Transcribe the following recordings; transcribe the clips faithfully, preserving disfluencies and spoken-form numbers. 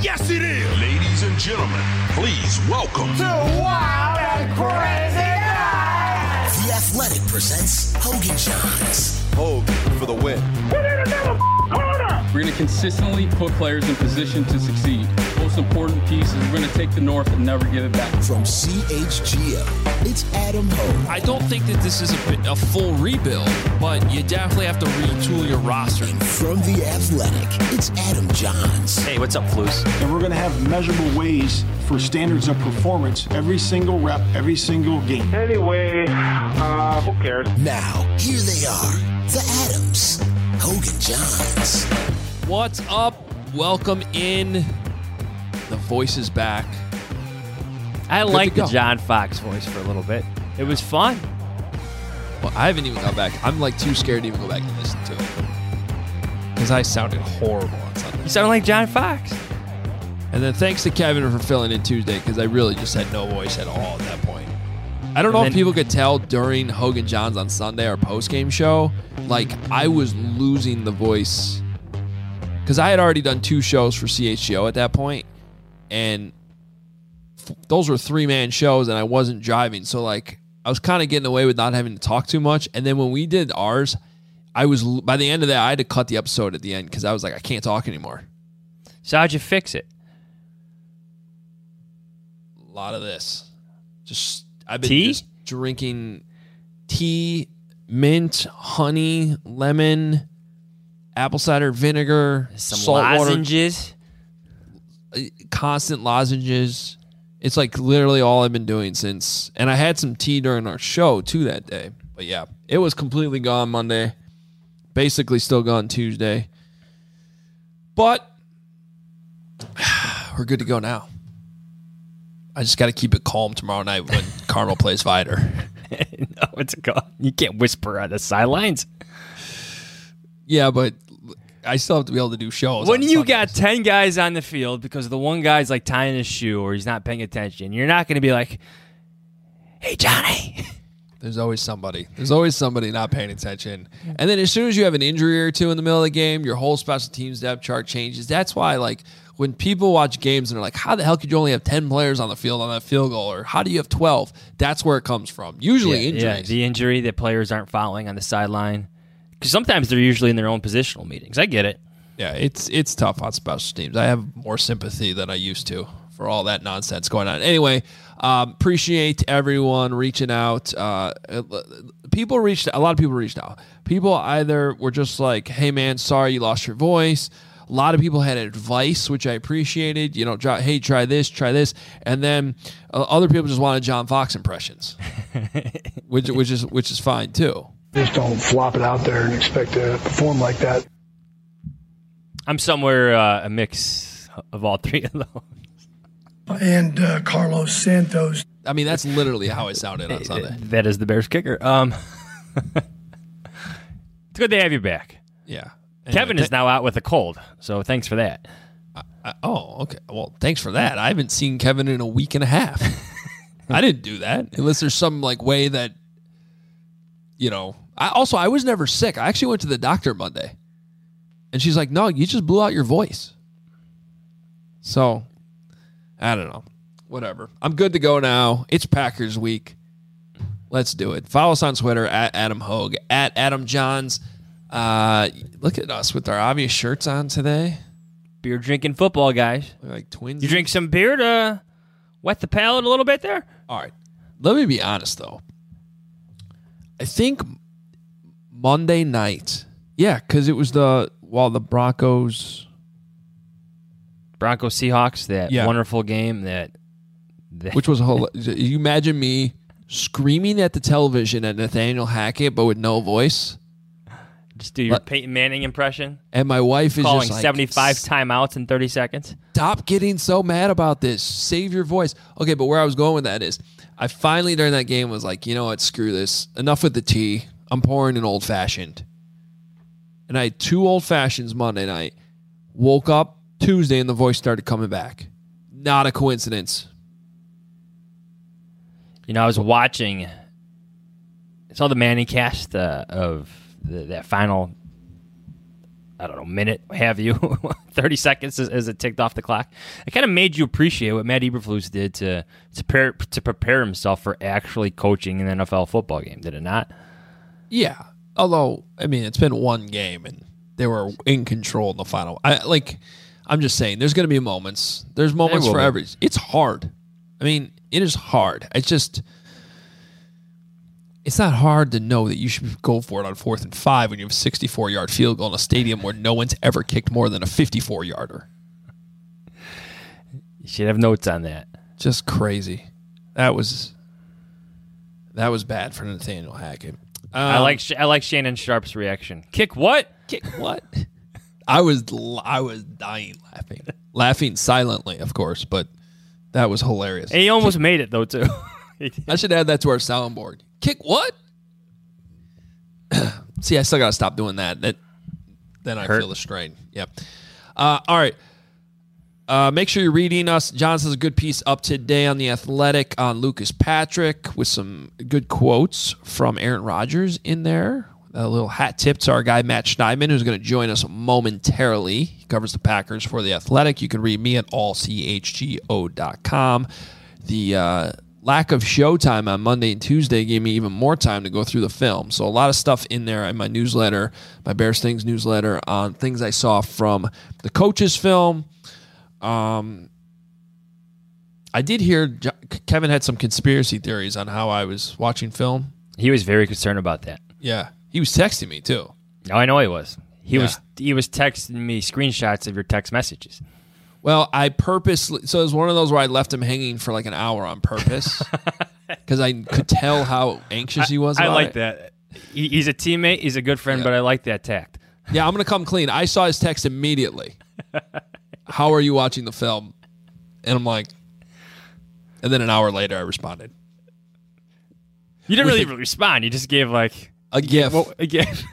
Yes, it is. Ladies and gentlemen, please welcome to Wild and Crazy Guys. The Athletic presents Hogan Johns. Hogan for the win. Put in another corner. We're going to consistently put players in position to succeed. Most important piece is we're going to take the North and never give it back. From C H G O, it's Adam Hogue. I don't think that this is a, a full rebuild, but you definitely have to retool your roster. And from The Athletic, it's Adam Johns. Hey, what's up, Flus? And we're going to have measurable ways for standards of performance every single rep, every single game. Anyway, uh, who cares? Now, here they are, the Adams, Hogan Johns. What's up? Welcome in. The voice is back. I like the John Fox voice for a little bit. It was fun. Well, I haven't even gone back. I'm like too scared to even go back and listen to it. Because I sounded horrible on Sunday. You sound like John Fox. And then thanks to Kevin for filling in Tuesday, because I really just had no voice at all at that point. I don't And know then, if people could tell during Hogan Johns on Sunday, our post-game show, like I was losing the voice. Because I had already done two shows for C H G O at that point, and f- those were three-man shows, and I wasn't driving. So, like, I was kind of getting away with not having to talk too much. And then when we did ours, I was, by the end of that, I had to cut the episode at the end because I was like, I can't talk anymore. So how'd you fix it? A lot of this. Just, I've been Tea? just drinking tea, mint, honey, lemon, apple cider vinegar, Some salt lozenges. water, constant lozenges. It's like literally all I've been doing since. And I had some tea during our show too that day. But yeah, it was completely gone Monday. Basically still gone Tuesday. But we're good to go now. I just got to keep it calm tomorrow night when Carmel plays Vider. No, it's a go. You can't whisper on the sidelines. Yeah, but I still have to be able to do shows. When on you Sundays. got ten guys on the field because the one guy's like tying his shoe or he's not paying attention, you're not going to be like, hey, Johnny. There's always somebody. There's always somebody not paying attention. And then as soon as you have an injury or two in the middle of the game, your whole special teams depth chart changes. That's why, like, when people watch games and they're like, how the hell could you only have ten players on the field on that field goal? Or how do you have twelve? That's where it comes from. Usually yeah, injuries. Yeah, the injury that players aren't following on the sideline. Because sometimes they're usually in their own positional meetings. I get it. Yeah, it's it's tough on special teams. I have more sympathy than I used to for all that nonsense going on. Anyway, um, appreciate everyone reaching out. Uh, people reached a lot of people reached out. People either were just like, "Hey, man, sorry you lost your voice." A lot of people had advice, which I appreciated. You know, hey, try this, try this, and then uh, other people just wanted John Fox impressions, which which is which is fine too. Just don't flop it out there and expect to perform like that. I'm somewhere uh, a mix of all three of those. And uh, Carlos Santos. I mean, that's literally how it sounded on Sunday. That is the Bears kicker. Um, it's good to have you back. Yeah. Anyway, Kevin is th- now out with a cold, so thanks for that. I, I, oh, okay. Well, thanks for that. I haven't seen Kevin in a week and a half. I didn't do that unless there's some like way that, you know. I also I was never sick. I actually went to the doctor Monday, and she's like, "No, you just blew out your voice." So, I don't know. Whatever. I'm good to go now. It's Packers week. Let's do it. Follow us on Twitter at Adam Hogue, at Adam Johns. Uh, look at us with our obvious shirts on today. Beer drinking football guys. We're like twins. You drink some beer to wet the palate a little bit there? All right. Let me be honest, though. I think Monday night, yeah, because it was the, while the Broncos. Broncos Seahawks, that Yeah. wonderful game that. that Which was a whole. You imagine me screaming at the television at Nathaniel Hackett, but with no voice. Just do your Let, Peyton Manning impression. And my wife is calling just like, seventy-five timeouts in thirty seconds. Stop getting so mad about this. Save your voice. Okay, but where I was going with that is, I finally during that game was like, you know what, screw this. Enough with the tea. I'm pouring an old fashioned. And I had two old fashions Monday night. Woke up Tuesday and the voice started coming back. Not a coincidence. You know, I was watching. I saw the Manning cast uh, of the, that final I don't know, minute, have you, thirty seconds as, as it ticked off the clock. It kind of made you appreciate what Matt Eberflus did to to prepare, to prepare himself for actually coaching an N F L football game, did it not? Yeah. Although, I mean, it's been one game, and they were in control in the final. I like. I'm just saying, there's going to be moments. There's moments for every. It's hard. I mean, it is hard. It's just. It's not hard to know that you should go for it on fourth and five when you have a sixty-four-yard field goal in a stadium where no one's ever kicked more than a fifty-four-yarder. You should have notes on that. Just crazy. That was that was bad for Nathaniel Hackett. Um, I like I like Shannon Sharp's reaction. Kick what? Kick what? I was I was dying laughing, laughing silently, of course, but that was hilarious. And he almost made it though too. I should add that to our soundboard. Kick what? See, I still got to stop doing that. That Then I Hurt. feel the strain. Yep. Uh, all right. Uh, make sure you're reading us. John says a good piece up today on The Athletic on Lucas Patrick with some good quotes from Aaron Rodgers in there. A little hat tip to our guy, Matt Schneidman, who's going to join us momentarily. He covers the Packers for The Athletic. You can read me at all c h g o dot com. The uh, lack of showtime on Monday and Tuesday gave me even more time to go through the film. So a lot of stuff in there in my newsletter, my Bears Things newsletter, on things I saw from the coaches' film. Um, I did hear Jo- Kevin had some conspiracy theories on how I was watching film. He was very concerned about that. Yeah. He was texting me, too. Oh, I know he was. He Yeah. was he was texting me screenshots of your text messages. Well, I purposely, so it was one of those where I left him hanging for like an hour on purpose because I could tell how anxious he was I, I about like it. that. He, he's a teammate. He's a good friend, Yeah. but I like that tact. Yeah, I'm going to come clean. I saw his text immediately. How are you watching the film? And I'm like, and then an hour later I responded. You didn't With really a- respond. You just gave like A gif. well, a gif.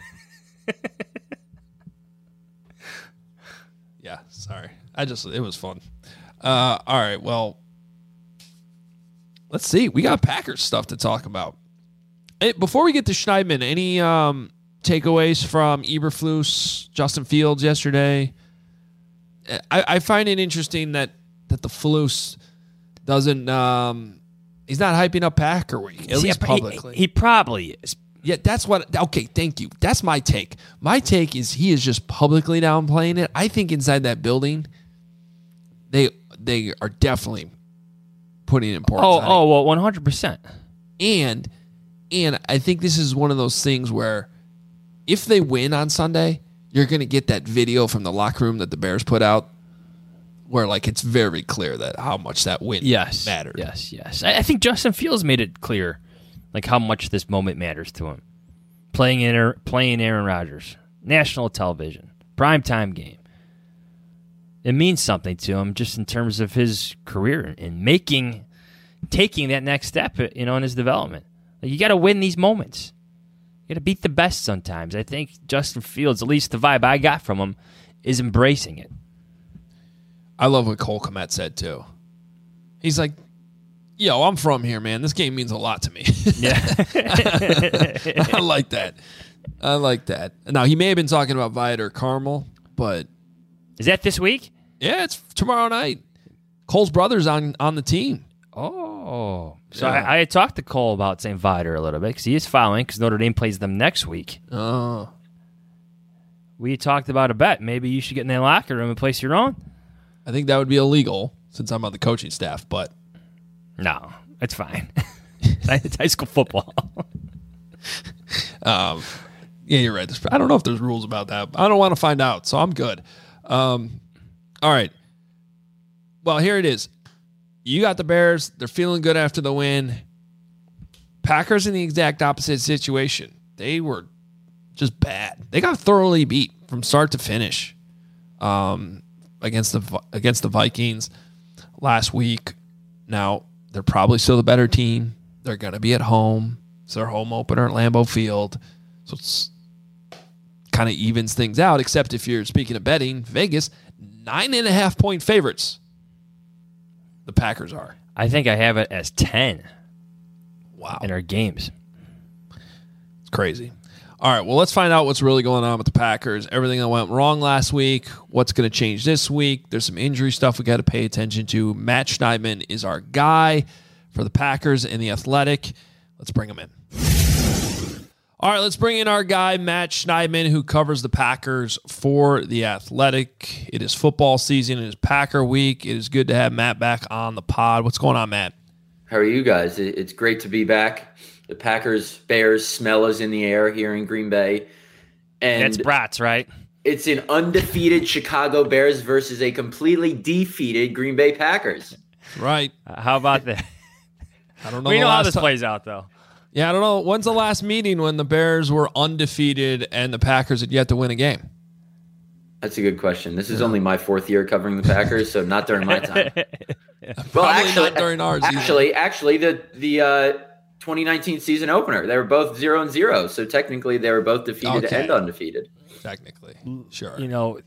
Yeah, sorry. I just, it was fun. Uh, all right, well, let's see. We got Packers stuff to talk about. Hey, before we get to Schneidman, any um, takeaways from Eberflus, Justin Fields yesterday? I, I find it interesting that, that the Flus doesn't, um, he's not hyping up Packer Week, at See, least he- publicly. He, probably is. Yeah, that's what. Okay, thank you. That's my take. My take is he is just publicly downplaying it. I think inside that building, they they are definitely putting importance Oh, on oh, well, one hundred percent. it. And and I think this is one of those things where if they win on Sunday, you're going to get that video from the locker room that the Bears put out, where like it's very clear that how much that win Yes, mattered. Yes, yes. I, I think Justin Fields made it clear, like how much this moment matters to him. Playing in, playing Aaron Rodgers, national television, primetime game. It means something to him just in terms of his career and making, taking that next step, you know, in his development. Like, you got to win these moments. You got to beat the best sometimes. I think Justin Fields, at least the vibe I got from him, is embracing it. I love what Cole Kmet said too. He's like, yo, I'm from here, man. This game means a lot to me. Yeah. I like that. I like that. Now, he may have been talking about Viator Carmel, but Is that this week? yeah, it's tomorrow night. Cole's brother's on, on the team. Oh. So Yeah. I, I had talked to Cole about Saint Viator a little bit because he is following because Notre Dame plays them next week. Oh. We talked about a bet. Maybe you should get in their locker room and place your own. I think that would be illegal since I'm on the coaching staff, but No, it's fine. It's high school football. um, yeah, you're right. There's- I don't know if there's rules about that. I don't want to find out, so I'm good. Um, all right. Well, here it is. You got the Bears. They're feeling good after the win. Packers in the exact opposite situation. They were just bad. They got thoroughly beat from start to finish um, against the against the Vikings last week. Now, they're probably still the better team. They're going to be at home. It's their home opener at Lambeau Field. So it's kind of evens things out, except if you're speaking of betting, Vegas, nine and a half point favorites. The Packers are. I think I have it as ten Wow. in our games. It's crazy. All right, well, let's find out what's really going on with the Packers. Everything that went wrong last week, what's going to change this week. There's some injury stuff we got to pay attention to. Matt Schneidman is our guy for the Packers and the Athletic. Let's bring him in. All right, let's bring in our guy, Matt Schneidman, who covers the Packers for The Athletic. It is football season. It is Packer week. It is good to have Matt back on the pod. What's going on, Matt? How are you guys? It's great to be back. The Packers-Bears smell is in the air here in Green Bay. And it's brats, right? It's an undefeated Chicago Bears versus a completely defeated Green Bay Packers. Right. Uh, how about that? I don't know. We know how this time. plays out, though. Yeah, I don't know. When's the last meeting when the Bears were undefeated and the Packers had yet to win a game? That's a good question. This is only my fourth year covering the Packers, so not during my time. yeah, well, actually, not during ours. Actually, either. actually, the the uh, twenty nineteen season opener, they were both zero and zero. So technically, they were both defeated okay. and undefeated. Technically, sure. You know,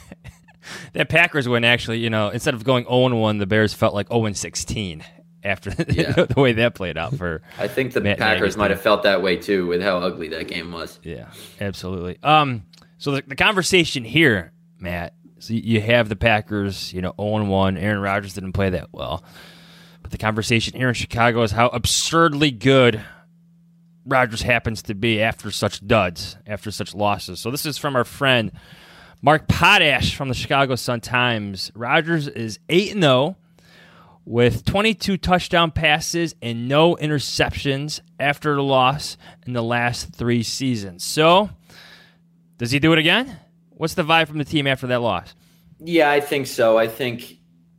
that Packers win actually. You know, instead of going zero and one, the Bears felt like zero and sixteen. After yeah. the way that played out for I think the Matt Packers Nagy. might have felt that way too with how ugly that game was. Yeah, absolutely. Um, so the, the conversation here, Matt, so you have the Packers, you know, oh and one. Aaron Rodgers didn't play that well. But the conversation here in Chicago is how absurdly good Rodgers happens to be after such duds, after such losses. So this is from our friend Mark Potash from the Chicago Sun-Times. Rodgers is eight and oh. with twenty-two touchdown passes and no interceptions after the loss in the last three seasons. So, does he do it again? What's the vibe from the team after that loss? Yeah, I think so. I think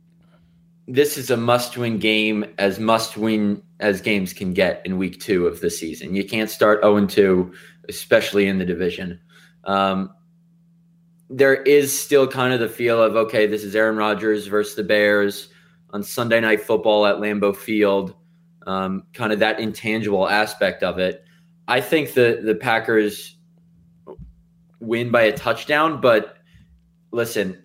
this is a must-win game, as must-win as games can get in week two of the season. You can't start oh and two, especially in the division. Um, there is still kind of the feel of, okay, this is Aaron Rodgers versus the Bears on Sunday Night Football at Lambeau Field, um, kind of that intangible aspect of it. I think the, the Packers win by a touchdown, but listen,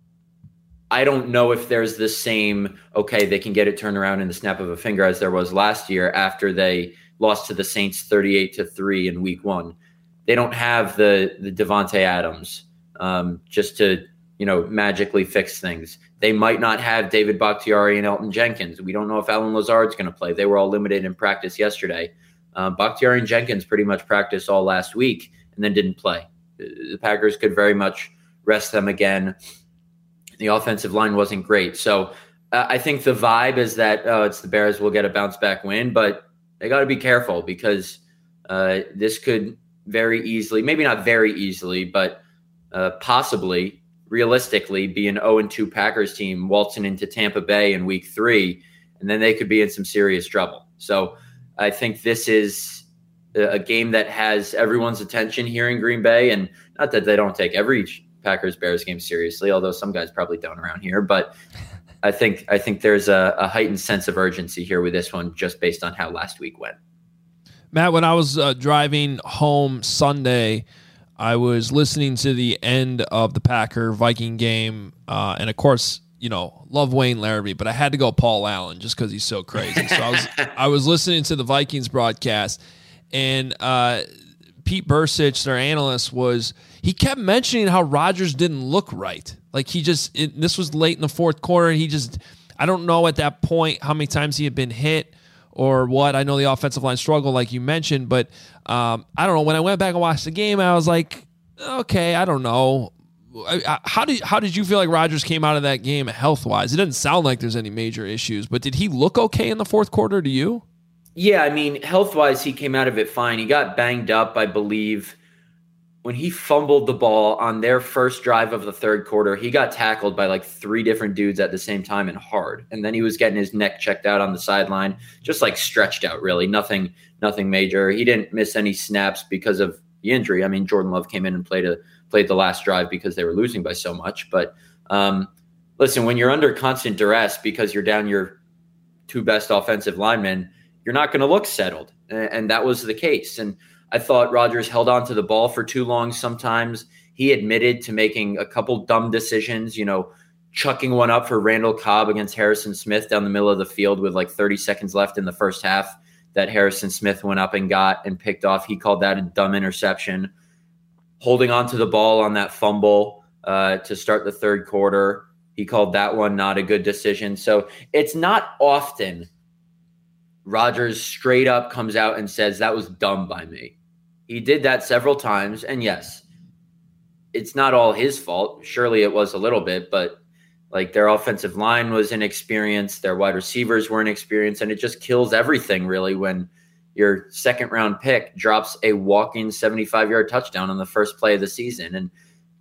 I don't know if there's the same, okay, they can get it turned around in the snap of a finger as there was last year after they lost to the Saints thirty-eight to three in week one. They don't have the, the Devontae Adams um, just to, you know, magically fix things. They might not have David Bakhtiari and Elton Jenkins. We don't know if Alan Lazard's going to play. They were all limited in practice yesterday. Uh, Bakhtiari and Jenkins pretty much practiced all last week and then didn't play. The Packers could very much rest them again. The offensive line wasn't great. So uh, I think the vibe is that uh, it's the Bears will get a bounce back win, but they got to be careful because uh, this could very easily, maybe not very easily, but uh, possibly realistically be an oh and two Packers team waltzing into Tampa Bay in week three, and then they could be in some serious trouble. So I think this is a game that has everyone's attention here in Green Bay, and not that they don't take every Packers-Bears game seriously, although some guys probably don't around here, but I think I think there's a, a heightened sense of urgency here with this one just based on how last week went. Matt, when I was uh, driving home Sunday, I was listening to the end of the Packer-Viking game, uh, and of course, you know, love Wayne Larrabee, but I had to go Paul Allen just because he's so crazy. So I was I was listening to the Vikings broadcast, and uh, Pete Bursich, their analyst, was he kept mentioning how Rodgers didn't look right. Like he just it, this was late in the fourth quarter. He just I don't know at that point how many times he had been hit or what. I know the offensive line struggled, like you mentioned, but um, I don't know. When I went back and watched the game, I was like, okay, I don't know. I, I, how did how did you feel like Rodgers came out of that game health wise? It doesn't sound like there's any major issues, but did he look okay in the fourth quarter to you? Yeah, I mean, health wise, he came out of it fine. He got banged up, I believe, when he fumbled the ball on their first drive of the third quarter. He got tackled by like three different dudes at the same time and hard. And then he was getting his neck checked out on the sideline, just like stretched out, really. Nothing, nothing major. He didn't miss any snaps because of the injury. I mean, Jordan Love came in and played a played the last drive because they were losing by so much. But um, listen, when you're under constant duress because you're down your two best offensive linemen, you're not going to look settled. And, and that was the case. And I thought Rodgers held on to the ball for too long sometimes. He admitted to making a couple dumb decisions, you know, chucking one up for Randall Cobb against Harrison Smith down the middle of the field with like thirty seconds left in the first half that Harrison Smith went up and got and picked off. He called that a dumb interception. Holding on to the ball on that fumble uh, to start the third quarter, he called that one not a good decision. So it's not often Rodgers straight up comes out and says, that was dumb by me. He did that several times, and yes, it's not all his fault. Surely it was a little bit, but like their offensive line was inexperienced, their wide receivers were inexperienced, and it just kills everything really when your second round pick drops a walking seventy-five-yard touchdown on the first play of the season. And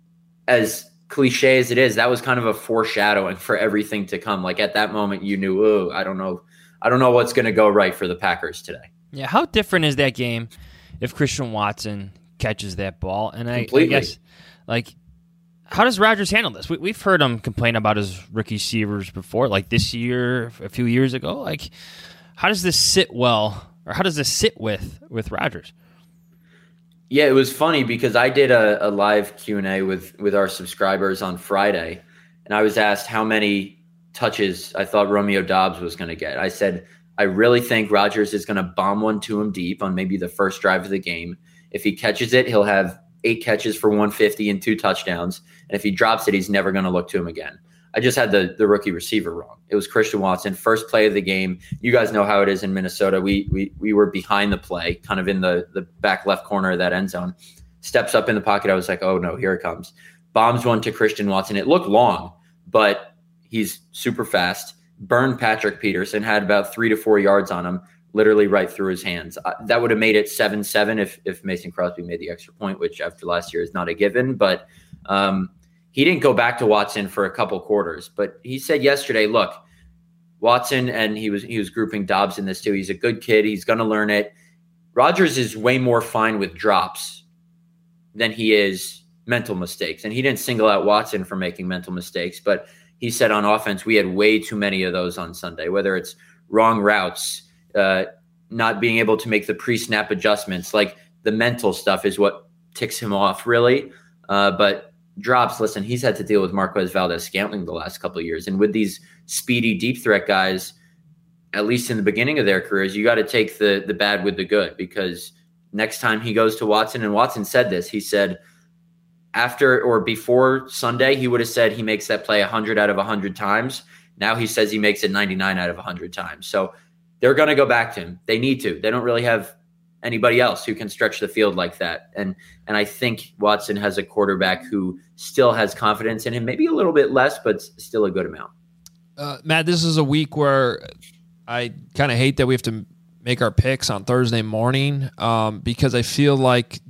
as cliche as it is, that was kind of a foreshadowing for everything to come. Like at that moment, you knew, oh, I don't know, I don't know what's going to go right for the Packers today. Yeah, how different is that game if Christian Watson catches that ball? And I, Completely. I guess, like, how does Rodgers handle this? We, we've heard him complain about his rookie receivers before, like this year, a few years ago. Like, how does this sit well, or how does this sit with with Rodgers? Yeah, it was funny because I did a, a live Q and A with with our subscribers on Friday, and I was asked how many touches I thought Romeo Doubs was going to get. I said, I really think Rodgers is going to bomb one to him deep on maybe the first drive of the game. If he catches it, he'll have eight catches for one fifty and two touchdowns. And if he drops it, he's never going to look to him again. I just had the, the rookie receiver wrong. It was Christian Watson, first play of the game. You guys know how it is in Minnesota. We we we were behind the play, kind of in the, the back left corner of that end zone. Steps up in the pocket. I was like, oh, no, here it comes. Bombs one to Christian Watson. It looked long, but he's super fast. Burned Patrick Peterson, had about three to four yards on him, literally right through his hands. Uh, that would have made it seven seven if if Mason Crosby made the extra point, which after last year is not a given. But um, he didn't go back to Watson for a couple quarters. But he said yesterday, look, Watson, and he was he was grouping Doubs in this too. He's a good kid. He's going to learn it. Rodgers is way more fine with drops than he is mental mistakes. And he didn't single out Watson for making mental mistakes. But he said on offense, we had way too many of those on Sunday, whether it's wrong routes, uh, not being able to make the pre-snap adjustments. Like the mental stuff is what ticks him off, really. Uh, but drops, listen, he's had to deal with Marquez Valdes-Scantling the last couple of years. And with these speedy deep threat guys, at least in the beginning of their careers, you got to take the the bad with the good, because next time he goes to Watson, and Watson said this, he said after or before Sunday, he would have said he makes that play one hundred out of one hundred times. Now he says he makes it ninety-nine out of one hundred times. So they're going to go back to him. They need to. They don't really have anybody else who can stretch the field like that. And and I think Watson has a quarterback who still has confidence in him, maybe a little bit less, but still a good amount. Uh, Matt, this is a week where I kind of hate that we have to make our picks on Thursday morning um, because I feel like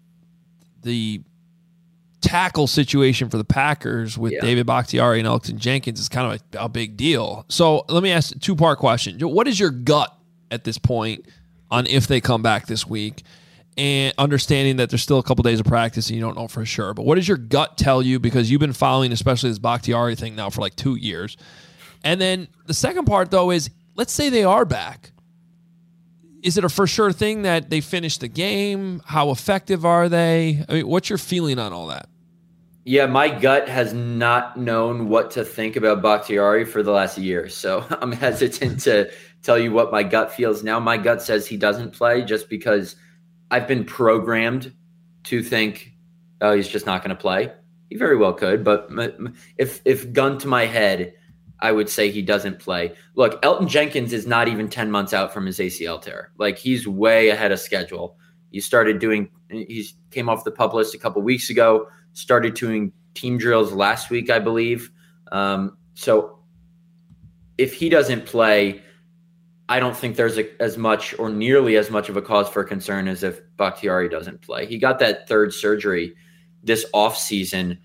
the tackle situation for the Packers with yeah. David Bakhtiari and Elgton Jenkins is kind of a, a big deal. So let me ask a two-part question. What is your gut at this point on if they come back this week, and understanding that there's still a couple days of practice and you don't know for sure, but what does your gut tell you, because you've been following especially this Bakhtiari thing now for like two years? And then the second part, though, is let's say they are back. Is it a for sure thing that they finish the game? How effective are they? I mean, what's your feeling on all that? Yeah, my gut has not known what to think about Bakhtiari for the last year, so I'm hesitant to tell you what my gut feels now. My gut says he doesn't play just because I've been programmed to think, oh, he's just not going to play. He very well could, but if if gun to my head, I would say he doesn't play. Look, Elgton Jenkins is not even ten months out from his A C L tear. Like, he's way ahead of schedule. He started doing – he came off the PUP list a couple weeks ago, started doing team drills last week, I believe. Um, so if he doesn't play, I don't think there's a, as much or nearly as much of a cause for concern as if Bakhtiari doesn't play. He got that third surgery this offseason,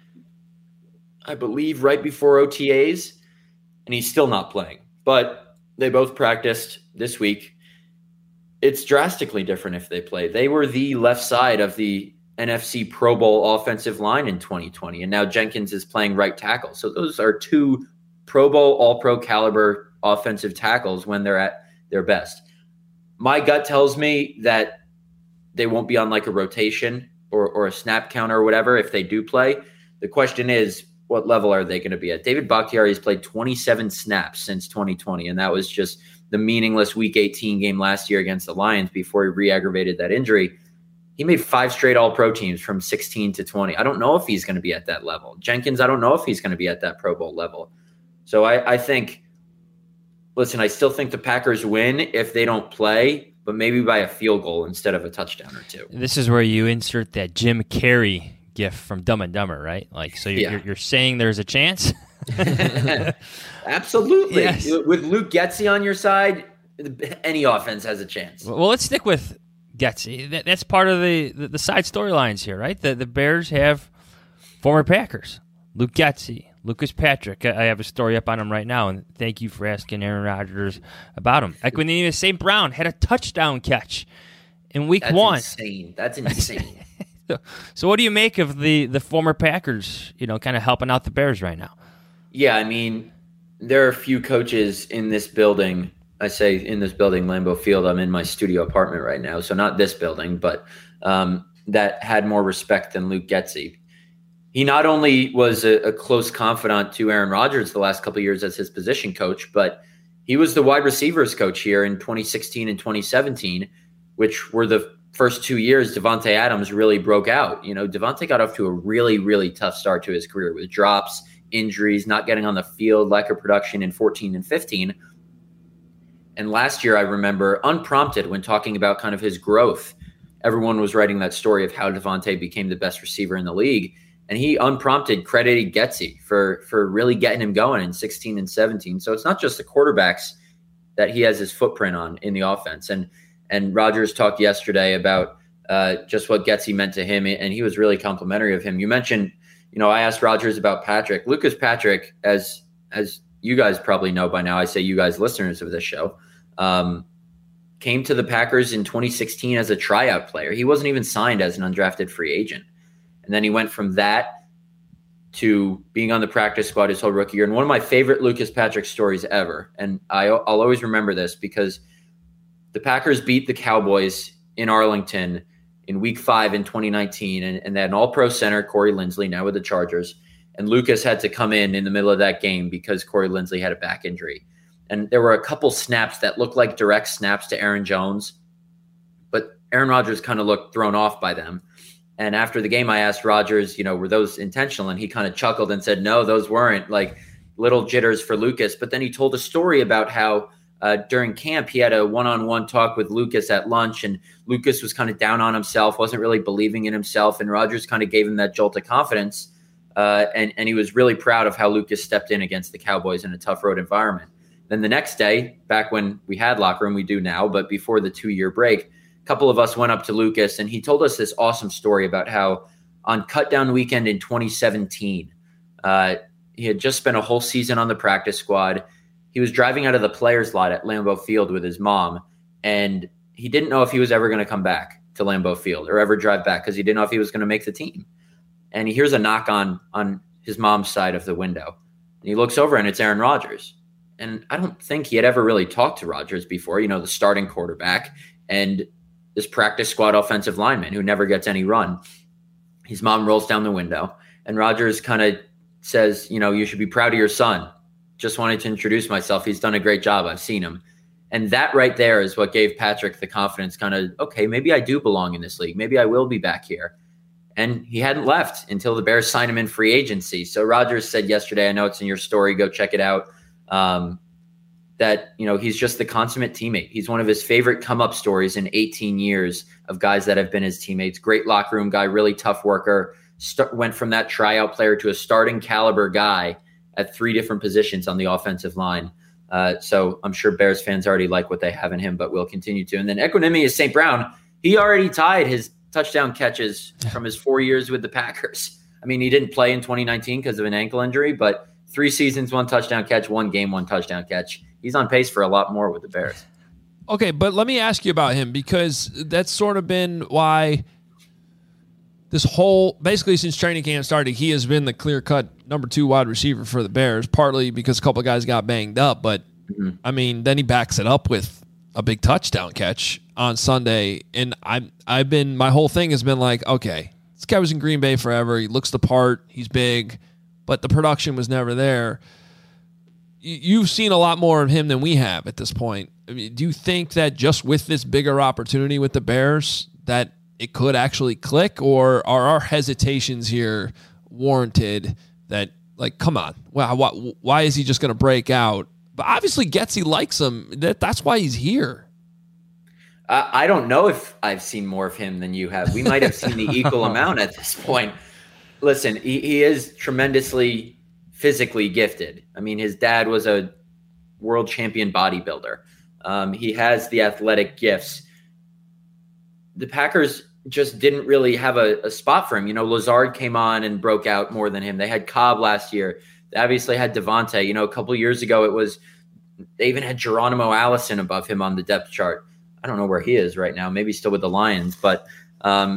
I believe right before O T As, and he's still not playing. But they both practiced this week. It's drastically different if they play. They were the left side of the N F C Pro Bowl offensive line in twenty twenty, and now Jenkins is playing right tackle. So those are two Pro Bowl, all-pro caliber offensive tackles when they're at their best. My gut tells me that they won't be on like a rotation or, or a snap counter or whatever if they do play. The question is, what level are they going to be at? David Bakhtiari has played twenty-seven snaps since twenty twenty, and that was just the meaningless Week eighteen game last year against the Lions before he re-aggravated that injury. He made five straight All-Pro teams from sixteen to twenty. I don't know if he's going to be at that level. Jenkins, I don't know if he's going to be at that Pro Bowl level. So I, I think, listen, I still think the Packers win if they don't play, but maybe by a field goal instead of a touchdown or two. This is where you insert that Jim Carrey gif from Dumb and Dumber, right? Like, so you're, Yeah. you're, you're saying there's a chance? Absolutely. Yes. With Luke Getsy on your side, any offense has a chance. Well, let's stick with Getsy. That, that's part of the, the, the side storylines here, right? The, the Bears have former Packers, Luke Getsy, Lucas Patrick. I have a story up on him right now, and thank you for asking Aaron Rodgers about him. Equanimeous Saint Brown had a touchdown catch in week That's one. insane. That's insane. So, so what do you make of the, the former Packers, you know, kind of helping out the Bears right now? Yeah, I mean, there are a few coaches in this building. I say in this building, Lambeau Field. I'm in my studio apartment right now, so not this building, but um, that had more respect than Luke Getsy. He not only was a, a close confidant to Aaron Rodgers the last couple of years as his position coach, but he was the wide receivers coach here in twenty sixteen and twenty seventeen, which were the first two years Devontae Adams really broke out. You know, Devontae got off to a really, really tough start to his career with drops, injuries, not getting on the field, lack of production in fourteen and fifteen. And last year, I remember, unprompted, when talking about kind of his growth, everyone was writing that story of how Devontae became the best receiver in the league. And he, unprompted, credited Getsy for, for really getting him going in sixteen and seventeen. So it's not just the quarterbacks that he has his footprint on in the offense. And and Rodgers talked yesterday about uh, just what Getsy meant to him, and he was really complimentary of him. You mentioned, you know, I asked Rodgers about Patrick. Lucas Patrick, as as you guys probably know by now, I say you guys listeners of this show, um, came to the Packers in twenty sixteen as a tryout player. He wasn't even signed as an undrafted free agent. And then he went from that to being on the practice squad his whole rookie year. And one of my favorite Lucas Patrick stories ever, and I, I'll always remember this because the Packers beat the Cowboys in Arlington in week five in twenty nineteen, and, and they had an all-pro center, Corey Linsley, now with the Chargers. And Lucas had to come in in the middle of that game because Corey Linsley had a back injury. And there were a couple snaps that looked like direct snaps to Aaron Jones, but Aaron Rodgers kind of looked thrown off by them. And after the game, I asked Rodgers, you know, were those intentional? And he kind of chuckled and said, no, those weren't, like little jitters for Lucas. But then he told a story about how uh, during camp, he had a one-on-one talk with Lucas at lunch, and Lucas was kind of down on himself, wasn't really believing in himself. And Rodgers kind of gave him that jolt of confidence. Uh, and, and he was really proud of how Lucas stepped in against the Cowboys in a tough road environment. Then the next day, back when we had locker room, we do now, but before the two-year break, a couple of us went up to Lucas, and he told us this awesome story about how on cutdown weekend in twenty seventeen, uh, he had just spent a whole season on the practice squad. He was driving out of the players' lot at Lambeau Field with his mom, and he didn't know if he was ever going to come back to Lambeau Field or ever drive back because he didn't know if he was going to make the team. And he hears a knock on on his mom's side of the window, and he looks over, and it's Aaron Rodgers. And I don't think he had ever really talked to Rodgers before, you know, the starting quarterback and this practice squad offensive lineman who never gets any run. His mom rolls down the window, and Rodgers kind of says, you know, you should be proud of your son. Just wanted to introduce myself. He's done a great job. I've seen him. And that right there is what gave Patrick the confidence, kind of, okay, maybe I do belong in this league. Maybe I will be back here. And he hadn't left until the Bears signed him in free agency. So Rodgers said yesterday, I know it's in your story, go check it out, um, that, you know, he's just the consummate teammate. He's one of his favorite come-up stories in eighteen years of guys that have been his teammates. Great locker room guy, really tough worker, st- went from that tryout player to a starting caliber guy at three different positions on the offensive line. Uh, so I'm sure Bears fans already like what they have in him, but will continue to. And then Equanimeous Saint Brown, he already tied his touchdown catches from his four years with the Packers. I mean, he didn't play in twenty nineteen because of an ankle injury, but three seasons, one touchdown catch, one game, one touchdown catch. He's on pace for a lot more with the Bears. Okay, but let me ask you about him, because that's sort of been why this whole, basically since training camp started, he has been the clear-cut number two wide receiver for the Bears, partly because a couple of guys got banged up, but, mm-hmm. I mean, then he backs it up with a big touchdown catch on Sunday, and I'm, I've been, my whole thing has been like, okay, this guy was in Green Bay forever, he looks the part, he's big, but the production was never there. You've seen a lot more of him than we have at this point. I mean, do you think that just with this bigger opportunity with the Bears that it could actually click, or are our hesitations here warranted that, like, come on, wow, why, why is he just going to break out? But obviously Getsy likes him. That, that's why he's here. Uh, I don't know if I've seen more of him than you have. We might have seen the equal amount at this point. Listen, he, he is tremendously physically gifted. I mean, his dad was a world champion bodybuilder. Um, he has the athletic gifts. The Packers just didn't really have a, a spot for him. You know, Lazard came on and broke out more than him. They had Cobb last year. They obviously had Devontae. You know, a couple of years ago, it was they even had Geronimo Allison above him on the depth chart. I don't know where he is right now. Maybe still with the Lions, but um,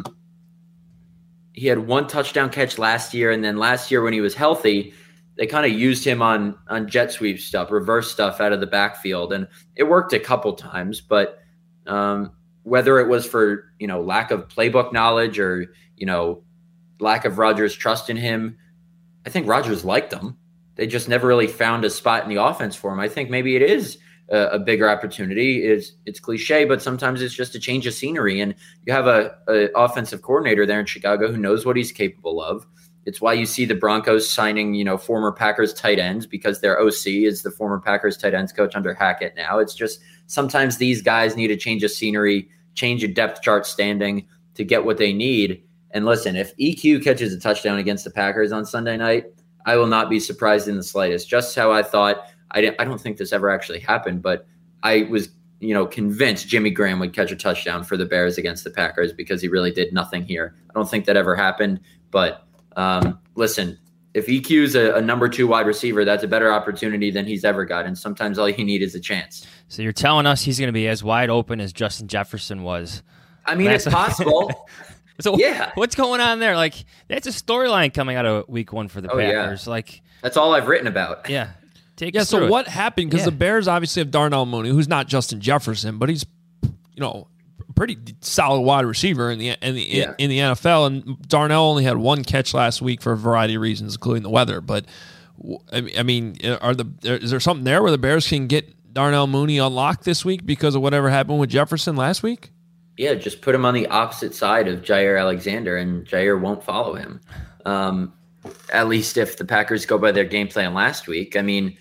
he had one touchdown catch last year. And then last year when he was healthy, they kind of used him on, on jet sweep stuff, reverse stuff out of the backfield. And it worked a couple times, but um, whether it was for, you know, lack of playbook knowledge or, you know, lack of Rodgers' trust in him, I think Rodgers liked him. They just never really found a spot in the offense for him. I think maybe it is a, a bigger opportunity. It's, it's cliche, but sometimes it's just a change of scenery. And you have a, a offensive coordinator there in Chicago who knows what he's capable of. It's why you see the Broncos signing, you know, former Packers tight ends because their O C is the former Packers tight ends coach under Hackett now. It's just sometimes these guys need a change of scenery, change a depth chart standing to get what they need. And listen, if E Q catches a touchdown against the Packers on Sunday night, I will not be surprised in the slightest. Just how I thought, I, didn't, I don't think this ever actually happened, but I was, you know, convinced Jimmy Graham would catch a touchdown for the Bears against the Packers because he really did nothing here. I don't think that ever happened, but Um, listen, if E Q's a, a number two wide receiver, that's a better opportunity than he's ever got. And sometimes all you need is a chance. So you're telling us he's going to be as wide open as Justin Jefferson was. I mean, it's possible. So yeah. What's going on there? Like, that's a storyline coming out of week one for the oh, Packers. Yeah. Like, that's all I've written about. Yeah. Take yeah. us So through what it. happened? Because yeah. the Bears obviously have Darnell Mooney, who's not Justin Jefferson, but he's, you know, pretty solid wide receiver in the in the yeah. in the N F L. And Darnell only had one catch last week for a variety of reasons, including the weather. But I mean, are the is there something there where the Bears can get Darnell Mooney unlocked this week because of whatever happened with Jefferson last week? Yeah, just put him on the opposite side of Jair Alexander, and Jair won't follow him. Um, at least if the Packers go by their game plan last week. I mean,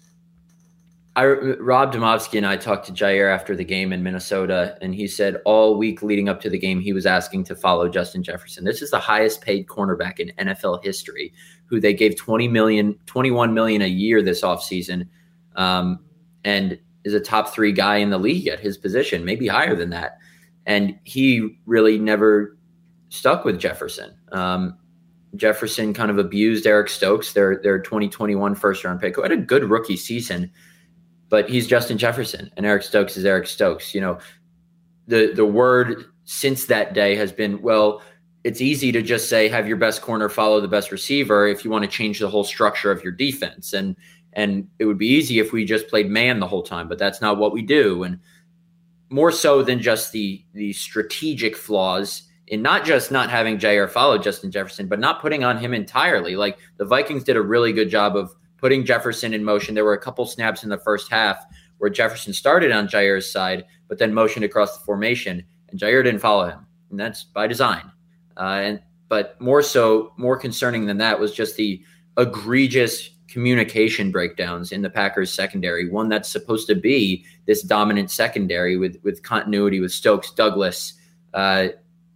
I, Rob Domofsky and I talked to Jair after the game in Minnesota, and he said all week leading up to the game, he was asking to follow Justin Jefferson. This is the highest paid cornerback in N F L history, who they gave twenty million dollars, twenty-one million dollars a year this offseason, um, and is a top three guy in the league at his position, maybe higher than that. And he really never stuck with Jefferson. Um, Jefferson kind of abused Eric Stokes, their, their twenty twenty-one first-round pick, who had a good rookie season. But he's Justin Jefferson, and Eric Stokes is Eric Stokes. You know, the the word since that day has been, well, it's easy to just say have your best corner follow the best receiver if you want to change the whole structure of your defense. And and it would be easy if we just played man the whole time, but that's not what we do. And more so than just the the strategic flaws in not just not having Jair follow Justin Jefferson, but not putting on him entirely. Like the Vikings did a really good job of putting Jefferson in motion. There were a couple snaps in the first half where Jefferson started on Jair's side, but then motioned across the formation, and Jair didn't follow him. And that's by design. Uh, and But more so, more concerning than that was just the egregious communication breakdowns in the Packers secondary, one that's supposed to be this dominant secondary with, with continuity with Stokes, Douglas, uh,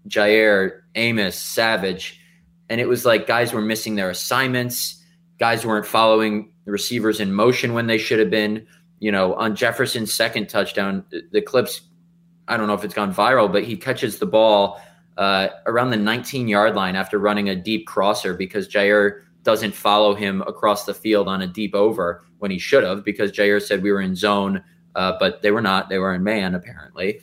Jair, Amos, Savage. And it was like guys were missing their assignments. Guys weren't following the receivers in motion when they should have been. You know, on Jefferson's second touchdown, the, the clips, I don't know if it's gone viral, but he catches the ball uh, around the nineteen-yard line after running a deep crosser because Jair doesn't follow him across the field on a deep over when he should have, because Jair said we were in zone, uh, but they were not. They were in man, apparently.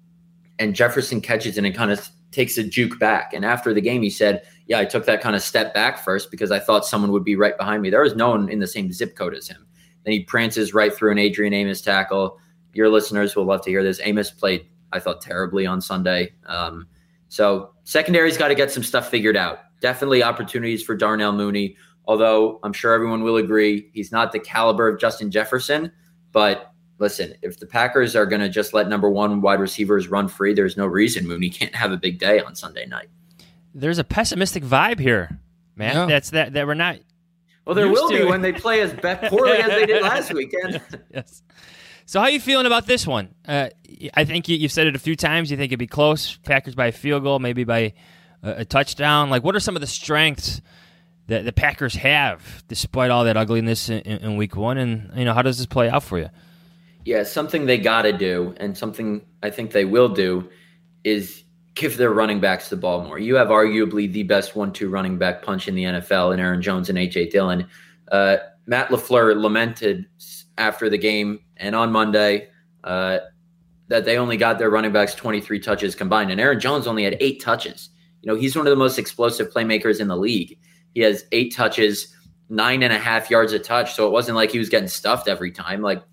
And Jefferson catches it and kind of takes a juke back. And after the game, he said, yeah, I took that kind of step back first because I thought someone would be right behind me. There was no one in the same zip code as him. Then he prances right through an Adrian Amos tackle. Your listeners will love to hear this. Amos played, I thought, terribly on Sunday. Um, so secondary's got to get some stuff figured out. Definitely opportunities for Darnell Mooney. although I'm sure everyone will agree he's not the caliber of Justin Jefferson. But listen, if the Packers are going to just let number one wide receivers run free, there's no reason Mooney can't have a big day on Sunday night. There's a pessimistic vibe here, man. Yeah. That's that that we're not. Well, there will to. be when they play as poorly as they did last weekend. Yes. So how are you feeling about this one? Uh, I think you, you've said it a few times. You think it'd be close, Packers by a field goal, maybe by a, a touchdown. Like, what are some of the strengths that the Packers have despite all that ugliness in, in, in week one? And, you know, how does this play out for you? Yeah, something they got to do, and something I think they will do, is give their running backs the ball more. You have arguably the best one two running back punch in the N F L in Aaron Jones and A J Dillon. Uh, Matt LaFleur lamented after the game and on Monday uh, that they only got their running backs twenty-three touches combined, and Aaron Jones only had eight touches. You know, he's one of the most explosive playmakers in the league. He has eight touches, nine and a half yards a touch, so it wasn't like he was getting stuffed every time. Like,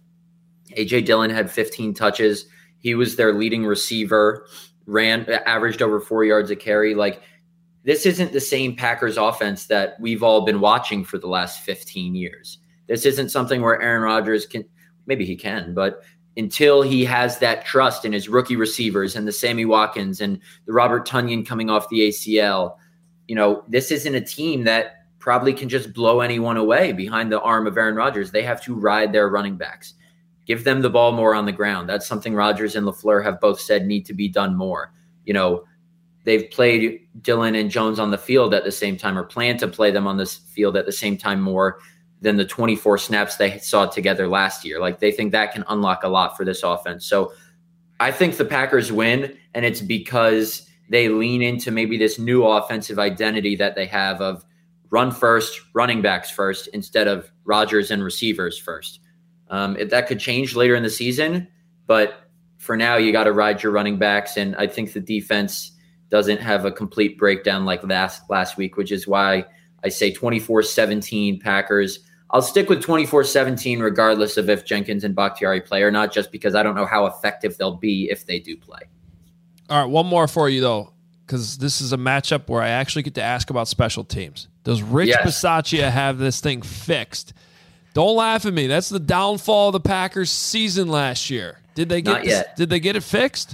A J Dillon had fifteen touches. He was their leading receiver, ran, averaged over four yards a carry. Like, this isn't the same Packers offense that we've all been watching for the last fifteen years. This isn't something where Aaron Rodgers can, maybe he can, but until he has that trust in his rookie receivers and the Sammy Watkins and the Robert Tonyan coming off the A C L, you know, this isn't a team that probably can just blow anyone away behind the arm of Aaron Rodgers. They have to ride their running backs. Give them the ball more on the ground. That's something Rodgers and LaFleur have both said need to be done more. You know, they've played Dillon and Jones on the field at the same time, or plan to play them on this field at the same time more than the twenty-four snaps they saw together last year. Like, they think that can unlock a lot for this offense. So I think the Packers win, and it's because they lean into maybe this new offensive identity that they have of run first, running backs first, instead of Rodgers and receivers first. Um, if that could change later in the season, but for now, you got to ride your running backs, and I think the defense doesn't have a complete breakdown like last last week, which is why I say twenty-four seventeen Packers. I'll stick with twenty-four seventeen regardless of if Jenkins and Bakhtiari play or not, just because I don't know how effective they'll be if they do play. All right, one more for you, though, because this is a matchup where I actually get to ask about special teams. Does Rich yes. Bisaccia have this thing fixed? Don't laugh at me. That's the downfall of the Packers season last year. Did they get Not this, yet. Did they get it fixed?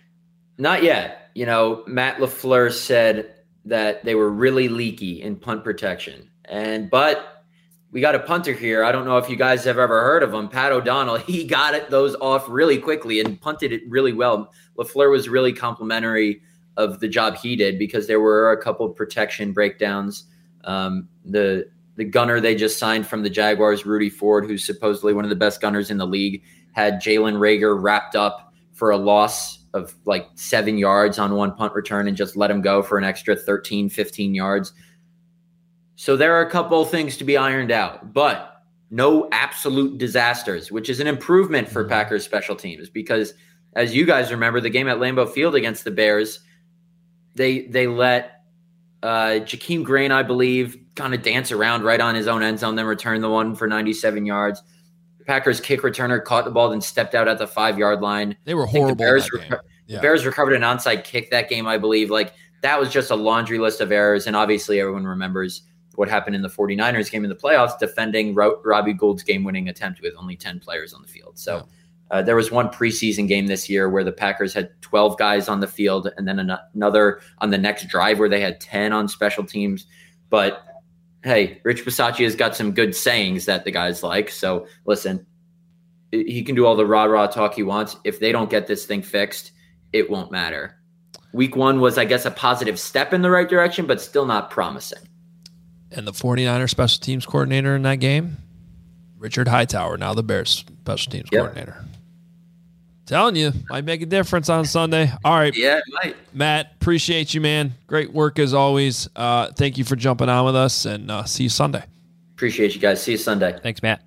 Not yet. You know, Matt LaFleur said that they were really leaky in punt protection. And but we got a punter here. I don't know if you guys have ever heard of him, Pat O'Donnell. He got it those off really quickly and punted it really well. LaFleur was really complimentary of the job he did because there were a couple of protection breakdowns. Um, the The gunner they just signed from the Jaguars, Rudy Ford, who's supposedly one of the best gunners in the league, had Jalen Reagor wrapped up for a loss of like seven yards on one punt return and just let him go for an extra thirteen, fifteen yards. So there are a couple things to be ironed out, but no absolute disasters, which is an improvement for Packers special teams because, as you guys remember, the game at Lambeau Field against the Bears, they they let Uh, Jakeem Green, I believe, kind of dance around right on his own end zone, then return the one for ninety-seven yards. The Packers kick returner caught the ball, then stepped out at the five-yard line. They were horrible. The Bears, that game. Yeah. the Bears recovered an onside kick that game, I believe. Like, that was just a laundry list of errors, and obviously everyone remembers what happened in the 49ers game in the playoffs, defending Ro- Robbie Gould's game-winning attempt with only ten players on the field. So yeah. Uh, there was one preseason game this year where the Packers had twelve guys on the field and then an- another on the next drive where they had ten on special teams. But, hey, Rich Bisaccia has got some good sayings that the guys like. So, listen, he can do all the rah-rah talk he wants. If they don't get this thing fixed, it won't matter. Week one was, I guess, a positive step in the right direction, but still not promising. And the 49ers special teams coordinator in that game, Richard Hightower, now the Bears special teams yep. coordinator. Telling you, might make a difference on Sunday. All right. Yeah, it might. Matt, appreciate you, man. Great work as always. Uh, thank you for jumping on with us, and uh, see you Sunday. Appreciate you guys. See you Sunday. Thanks, Matt.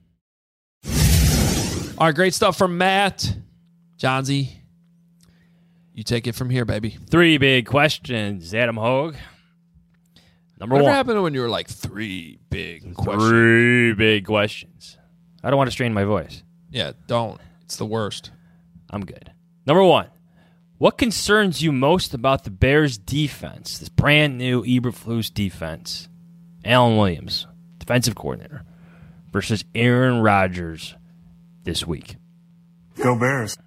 All right, great stuff from Matt. Johnsy, you take it from here, baby. Three big questions, Adam Hogue. Number Whatever one. happened when you were like three big questions? Three big questions. I don't want to strain my voice. Yeah, don't. It's the worst. I'm good. Number one, what concerns you most about the Bears' defense, this brand new Eberflus defense, Alan Williams, defensive coordinator, versus Aaron Rodgers this week. Go Bears.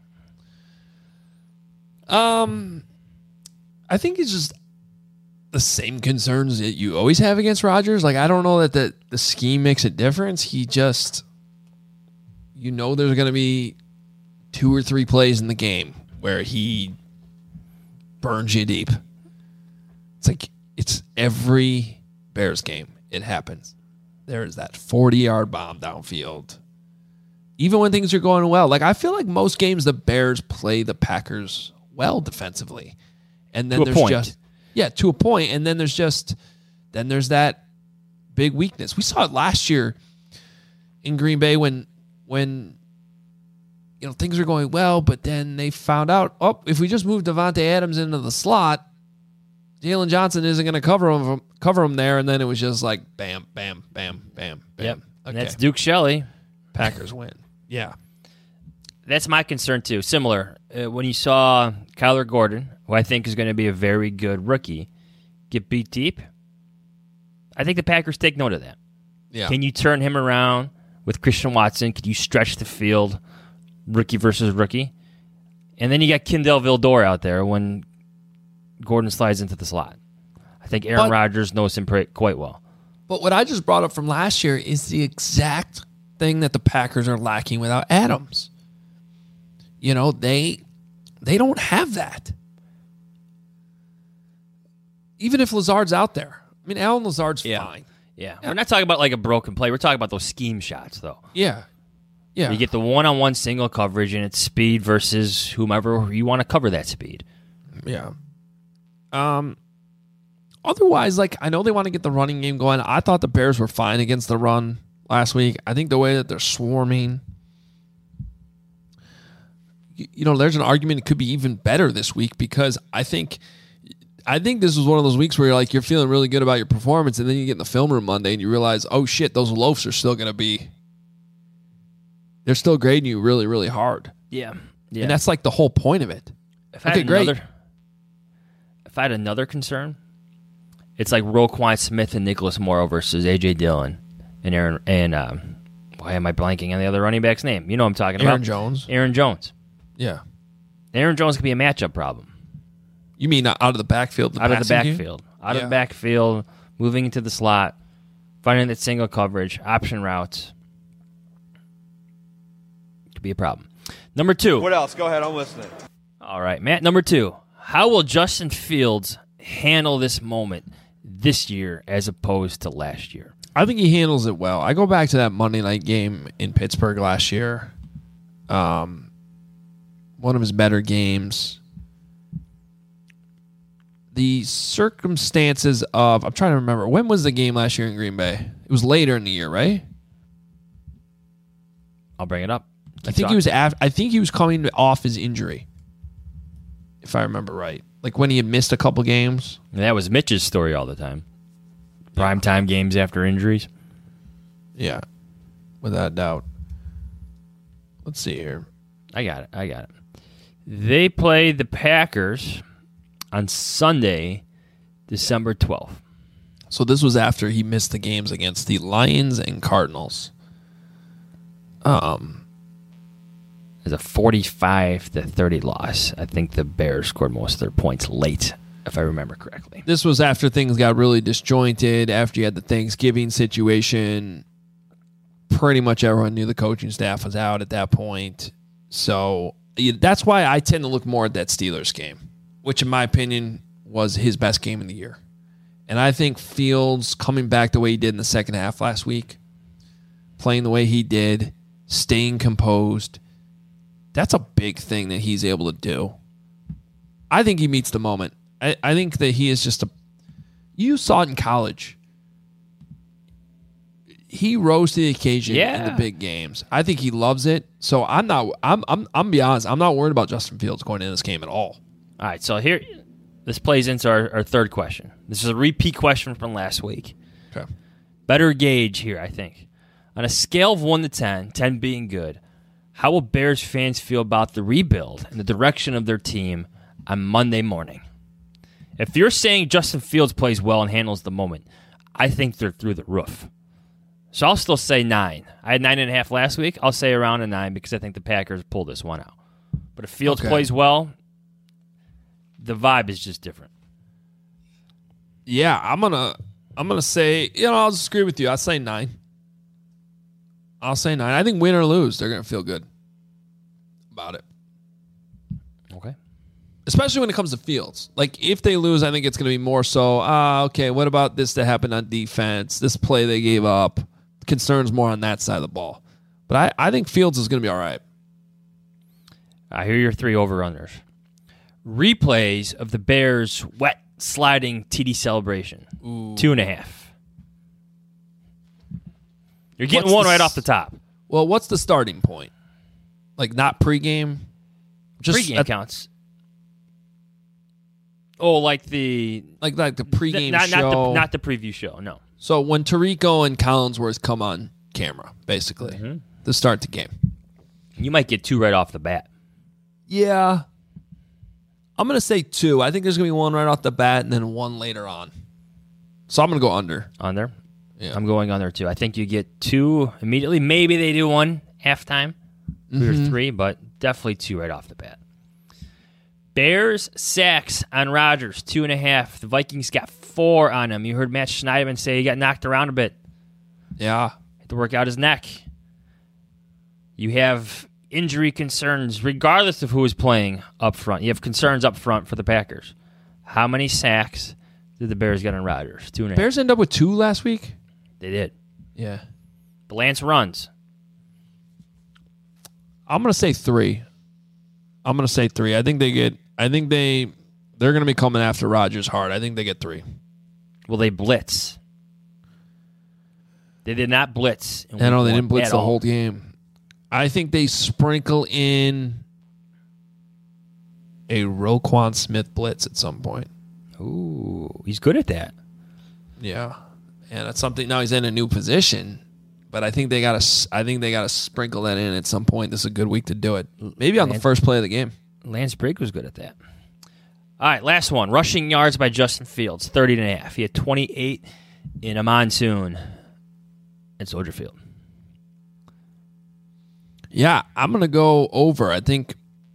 Um, I think it's just the same concerns that you always have against Rodgers. Like, I don't know that the, the scheme makes a difference. He just, you know, there's going to be two or three plays in the game where he burns you deep. It's like, it's every Bears game. It happens. There's that forty-yard bomb downfield. Even when things are going well. Like, I feel like most games the Bears play the Packers well defensively. And then to a there's point. just yeah, to a point. And then there's just then there's that big weakness. We saw it last year in Green Bay when when you know things are going well, but then they found out, oh, if we just move Devontae Adams into the slot, Jalen Johnson isn't going to cover him cover him there, and then it was just like bam, bam, bam, bam, bam. Yep. Okay. And that's Duke Shelley. Packers win. Yeah. That's my concern, too. Similar. Uh, when you saw Kyler Gordon, who I think is going to be a very good rookie, get beat deep, I think the Packers take note of that. Yeah. Can you turn him around with Christian Watson? Could you stretch the field, rookie versus rookie? And then you got Kendall Vildor out there when Gordon slides into the slot. I think Aaron But- Rodgers knows him pre- quite well. But what I just brought up from last year is the exact thing that the Packers are lacking without Adams. You know, they they don't have that. Even if Lazard's out there. I mean, Alan Lazard's Yeah. fine. Yeah. We're not talking about like a broken play. We're talking about those scheme shots, though. Yeah. Yeah. You get the one-on-one single coverage, and it's speed versus whomever you want to cover that speed. Yeah. Um. Otherwise, like, I know they want to get the running game going. I thought the Bears were fine against the run last week. I think the way that they're swarming, you, you know, there's an argument it could be even better this week because I think, I think this was one of those weeks where you're like, you're feeling really good about your performance, and then you get in the film room Monday and you realize, oh shit, those loafs are still going to be, they're still grading you really, really hard. Yeah. Yeah. And that's like the whole point of it. If I Okay, had great. Another, if I had another concern, it's like Roquan Smith and Nicholas Morrow versus A J Dillon and Aaron and um, why am I blanking on the other running back's name? You know what I'm talking about. Aaron Jones. Aaron Jones. Yeah. Aaron Jones could be a matchup problem. You mean out of the backfield? The out of the passing game? backfield. Out Yeah. of the backfield, moving into the slot, finding that single coverage, option routes. Could be a problem. Number two. What else? Go ahead, I'm listening. All right, Matt. Number two. How will Justin Fields handle this moment this year as opposed to last year? I think he handles it well. I go back to that Monday night game in Pittsburgh last year. Um, one of his better games. The circumstances of, I'm trying to remember, when was the game last year in Green Bay? It was later in the year, right? I'll bring it up. Keep I think talking. he was af- I think he was coming off his injury, if I remember right. Like when he had missed a couple games. And that was Mitch's story all the time. Primetime games after injuries. Yeah, without doubt. Let's see here. I got it. I got it. They play the Packers on Sunday, December twelfth. So this was after he missed the games against the Lions and Cardinals. Um, It's a forty-five to thirty loss. I think the Bears scored most of their points late, if I remember correctly. This was after things got really disjointed, after you had the Thanksgiving situation. Pretty much everyone knew the coaching staff was out at that point. So yeah, that's why I tend to look more at that Steelers game, which in my opinion was his best game of the year. And I think Fields coming back the way he did in the second half last week, playing the way he did, staying composed, that's a big thing that he's able to do. I think he meets the moment. I, I think that he is just a... You saw it in college. He rose to the occasion Yeah. in the big games. I think he loves it. So I'm not... I'm, I'm, I'm gonna be honest. I'm not worried about Justin Fields going into this game at all. All right, so here, this plays into our, our third question. This is a repeat question from last week. Okay. Better gauge here, I think. On a scale of one to ten, ten being good, how will Bears fans feel about the rebuild and the direction of their team on Monday morning? If you're saying Justin Fields plays well and handles the moment, I think they're through the roof. So I'll still say nine. I had nine and a half last week. I'll say around a nine because I think the Packers pull this one out. But if Fields Okay. plays well, the vibe is just different. Yeah, I'm gonna I'm gonna say, you know, I'll just agree with you. I'll say nine. I'll say nine. I think win or lose, they're gonna feel good about it. Okay. Especially when it comes to Fields. Like, if they lose, I think it's going to be more so, ah, okay, what about this that happened on defense? This play they gave up. Concerns more on that side of the ball. But I, I think Fields is going to be all right. I hear your three over-unders. Replays of the Bears' wet sliding T D celebration. Ooh. Two and a half. You're getting What's one the right s- off the top. Well, what's the starting point? Like, not pregame? Just Pregame at- counts. Oh, like the Like, like the pregame not, show? Not the, not the preview show, no. So when Tirico and Collinsworth come on camera, basically, Mm-hmm. to start the game. You might get two right off the bat. Yeah. I'm going to say two. I think there's going to be one right off the bat and then one later on. So I'm going to go under. Under? Yeah. I'm going under two. I think you get two immediately. Maybe they do one halftime, two Mm-hmm. or three, but definitely two right off the bat. Bears sacks on Rodgers, two and a half. The Vikings got four on him. You heard Matt Schneidman say he got knocked around a bit. Yeah. Had to work out his neck. You have injury concerns, regardless of who is playing up front. You have concerns up front for the Packers. How many sacks did the Bears get on Rodgers? Two and a half. Bears end up with two last week? They did. Yeah. But Lance runs. I'm going to say three. I'm going to say three. I think they get, I think they, they're going to be coming after Rodgers hard. I think they get three. Will they blitz? They did not blitz. in I know week they one didn't blitz at the all. whole game. I think they sprinkle in a Roquan Smith blitz at some point. Ooh, he's good at that. Yeah. And that's something, now he's in a new position, but I think they got to, I think they got to sprinkle that in at some point. This is a good week to do it. Maybe on the Lance- first play of the game. Lance Briggs was good at that. All right, last one. Rushing yards by Justin Fields, thirty and a half. He had twenty-eight in a monsoon at Soldier Field. Yeah, I'm gonna go over. I think,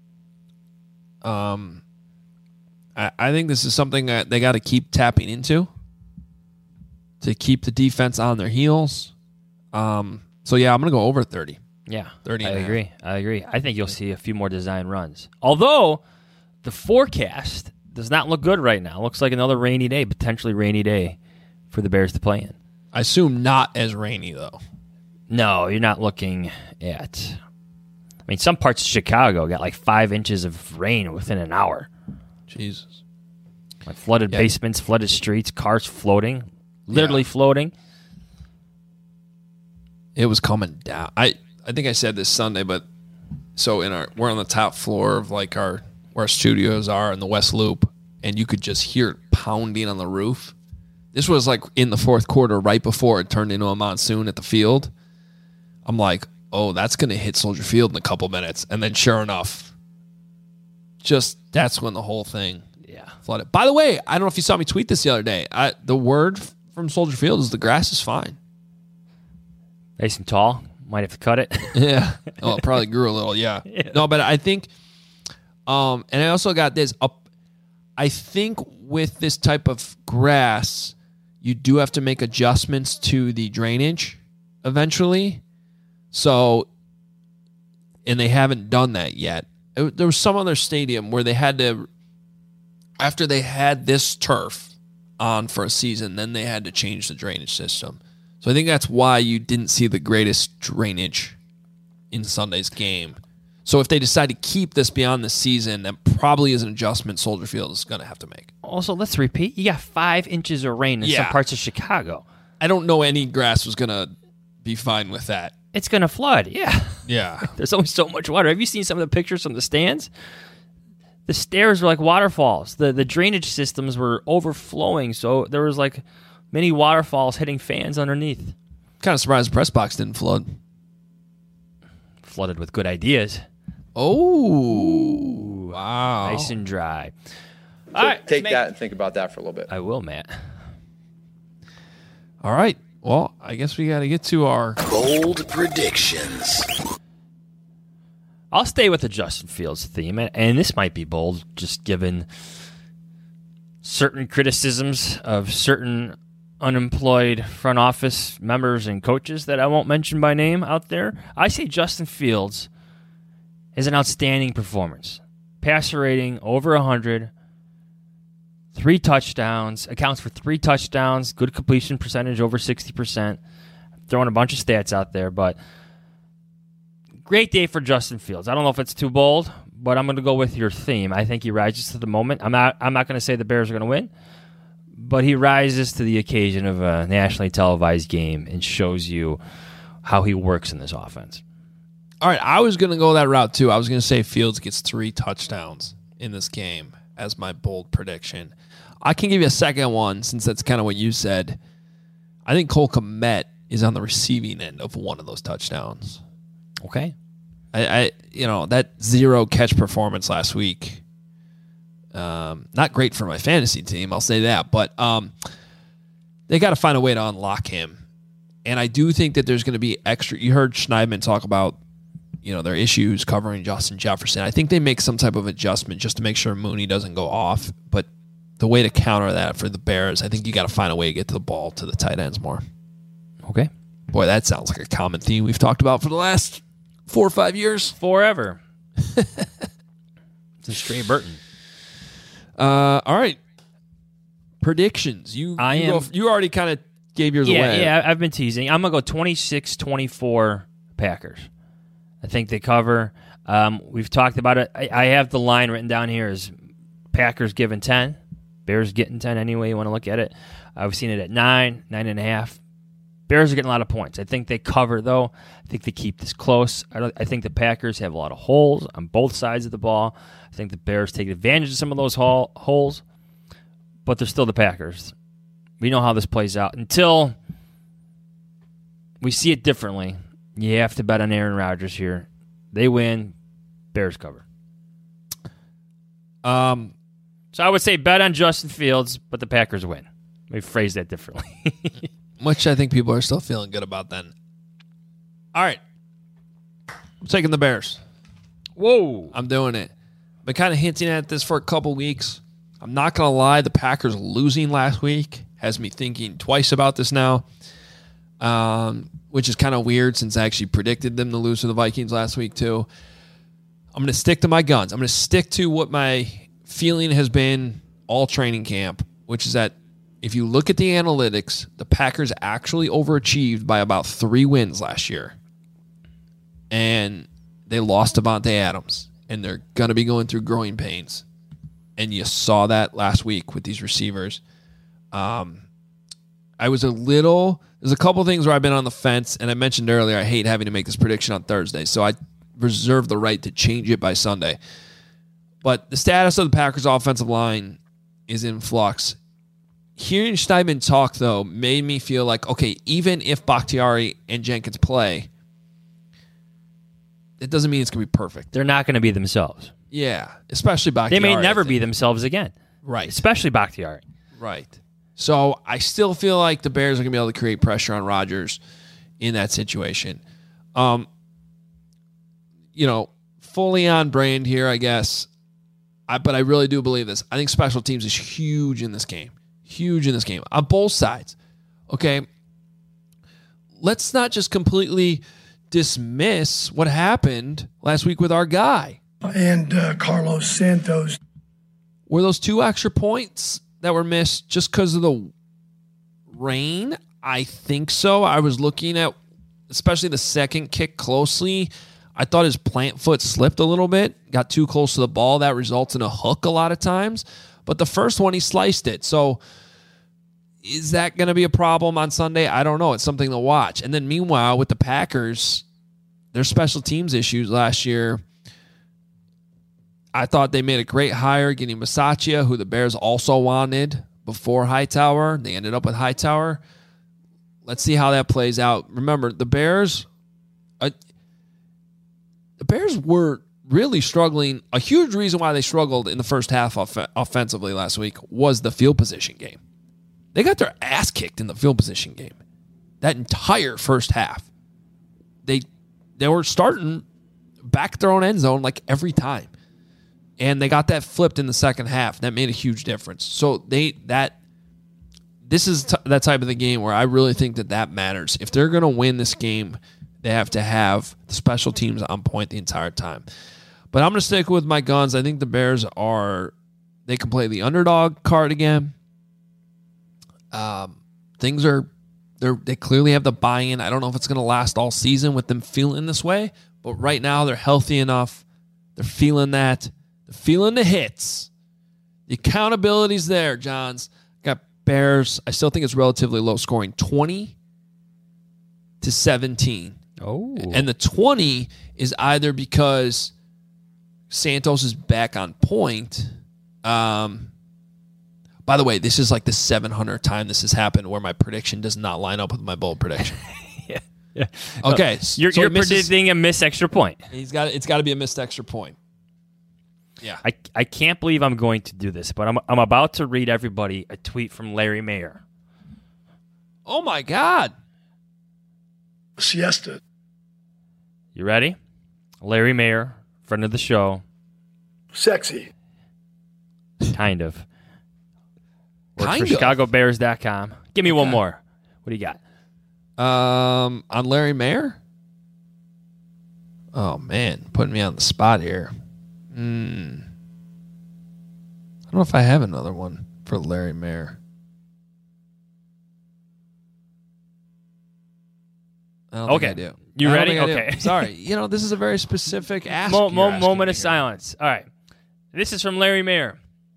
um, I, I think this is something that they got to keep tapping into to keep the defense on their heels. Um, so yeah, I'm gonna go over thirty. Yeah, thirty. I and a half. agree. I agree. I think you'll see a few more design runs. Although the forecast does not look good right now. It looks like another rainy day, potentially rainy day for the Bears to play in. I assume not as rainy though. No, you're not looking at. I mean, some parts of Chicago got like five inches of rain within an hour. Jesus. Like flooded Yeah. basements, flooded streets, cars floating, literally Yeah. floating. It was coming down. I, I think I said this Sunday, but so in our we're on the top floor of like our where our studios are in the West Loop, and you could just hear it pounding on the roof. This was like in the fourth quarter, right before it turned into a monsoon at the field. I'm like, oh, that's gonna hit Soldier Field in a couple minutes, and then sure enough, just that's when the whole thing Yeah. flooded. By the way, I don't know if you saw me tweet this the other day. I, the word from Soldier Field is the grass is fine. Nice and tall. Might have to cut it. Yeah. Oh, it probably grew a little. Yeah. No, but I think, um, and I also got this up. I think with this type of grass, you do have to make adjustments to the drainage eventually. So, and they haven't done that yet. It- there was some other stadium where they had to, after they had this turf on for a season, then they had to change the drainage system. So I think that's why you didn't see the greatest drainage in Sunday's game. So if they decide to keep this beyond the season, that probably is an adjustment Soldier Field is going to have to make. Also, let's repeat. You got five inches of rain in some Yeah. parts of Chicago. I don't know any grass was going to be fine with that. It's going to flood. Yeah. Yeah. There's only so much water. Have you seen some of the pictures from the stands? The stairs were like waterfalls. The the drainage systems were overflowing, so there was like many waterfalls hitting fans underneath. Kind of surprised the press box didn't flood. Flooded with good ideas. Oh, wow. Nice and dry. So All right, take let's make- that and think about that for a little bit. I will, Matt. All right. Well, I guess we got to get to our bold predictions. I'll stay with the Justin Fields theme, and this might be bold, just given certain criticisms of certain unemployed front office members and coaches that I won't mention by name out there. I say Justin Fields is an outstanding performance. Passer rating over one hundred, three touchdowns, accounts for three touchdowns, good completion percentage over sixty percent. Throwing a bunch of stats out there, but great day for Justin Fields. I don't know if it's too bold, but I'm going to go with your theme. I think he rises to the moment. I'm not I'm not going to say the Bears are going to win, but he rises to the occasion of a nationally televised game and shows you how he works in this offense. All right, I was going to go that route too. I was going to say Fields gets three touchdowns in this game as my bold prediction. I can give you a second one since that's kind of what you said. I think Cole Kmet is on the receiving end of one of those touchdowns. Okay. I, I you know, that zero catch performance last week, um, not great for my fantasy team, I'll say that, but um, they got to find a way to unlock him. And I do think that there's going to be extra. You heard Schneidman talk about, you know, their issues covering Justin Jefferson. I think they make some type of adjustment just to make sure Mooney doesn't go off. But the way to counter that for the Bears, I think you got to find a way to get to the ball to the tight ends more. Okay. Boy, that sounds like a common theme we've talked about for the last four or five years. Forever. It's a straight Burton. Uh, all right. Predictions. You I you, am, go, you already kind of gave yours yeah, away. Yeah, I've been teasing. I'm going to go twenty-six twenty-four Packers. I think they cover. Um, we've talked about it. I, I have the line written down here as Packers giving ten. Bears getting ten anyway you want to look at it. I've seen it at nine, nine and a half. Bears are getting a lot of points. I think they cover, though. I think they keep this close. I, don't, I think the Packers have a lot of holes on both sides of the ball. I think the Bears take advantage of some of those hole, holes, but they're still the Packers. We know how this plays out. Until we see it differently, you have to bet on Aaron Rodgers here. They win, Bears cover. Um, so I would say bet on Justin Fields, but the Packers win. Let me phrase that differently. Which I think people are still feeling good about then. All right. I'm taking the Bears. Whoa. I'm doing it. I've been kind of hinting at this for a couple weeks. I'm not going to lie. The Packers losing last week has me thinking twice about this now, um, which is kind of weird since I actually predicted them to lose to the Vikings last week too. I'm going to stick to my guns. I'm going to stick to what my feeling has been all training camp, which is that if you look at the analytics, the Packers actually overachieved by about three wins last year. And they lost Davante Adams. And they're going to be going through growing pains. And you saw that last week with these receivers. Um, I was a little... There's a couple things where I've been on the fence. And I mentioned earlier, I hate having to make this prediction on Thursday. So I reserve the right to change it by Sunday. But the status of the Packers' offensive line is in flux. Hearing Steinman talk, though, made me feel like, okay, even if Bakhtiari and Jenkins play, it doesn't mean it's going to be perfect. They're not going to be themselves. Yeah, especially Bakhtiari. They may never be themselves again. Right. Especially Bakhtiari. Right. So I still feel like the Bears are going to be able to create pressure on Rodgers in that situation. Um, you know, fully on brand here, I guess. I, but I really do believe this. I think special teams is huge in this game. Huge in this game on both sides. Okay. Let's not just completely dismiss what happened last week with our guy. And uh, Carlos Santos. Were those two extra points that were missed just because of the rain? I think so. I was looking at especially the second kick closely. I thought his plant foot slipped a little bit, got too close to the ball. That results in a hook a lot of times. But the first one, he sliced it. So is that going to be a problem on Sunday? I don't know. It's something to watch. And then meanwhile, with the Packers, their special teams issues last year, I thought they made a great hire getting Bisaccia, who the Bears also wanted before Hightower. They ended up with Hightower. Let's see how that plays out. Remember, the Bears, uh, the Bears were really struggling. A huge reason why they struggled in the first half off- offensively last week was the field position game. They got their ass kicked in the field position game. That entire first half. They they were starting back at their own end zone like every time. And they got that flipped in the second half. That made a huge difference. So they that this is t- that type of the game where I really think that that matters. If they're going to win this game, they have to have the special teams on point the entire time. But I'm going to stick with my guns. I think the Bears are, they can play the underdog card again. Um, things are, they they clearly have the buy-in. I don't know if it's going to last all season with them feeling this way, but right now they're healthy enough. They're feeling that. They're feeling the hits. The accountability's there, Johns. Got Bears. I still think it's relatively low scoring, twenty to seventeen. Oh. And the twenty is either because Santos is back on point. Um, by the way, this is like the seven hundredth time this has happened where my prediction does not line up with my bold prediction. yeah. yeah. Okay. No, you're so you're misses, predicting a missed extra point. He's got it's got to be a missed extra point. Yeah. I, I can't believe I'm going to do this, but I'm I'm about to read everybody a tweet from Larry Mayer. Oh my God. Siesta. You ready? Larry Mayer, friend of the show. Sexy. Kind of. Works Kind for of. Chicago Bears dot com. Give me Okay. one more. What do you got? Um, on Larry Mayer? Oh, man. Putting me on the spot here. Hmm. I don't know if I have another one for Larry Mayer. I don't Okay. think I do. You I don't ready? think I do. Okay. Sorry. You know, this is a very specific ask. Mo- you're mo- asking moment me of here. silence. All right. This is from Larry Mayer.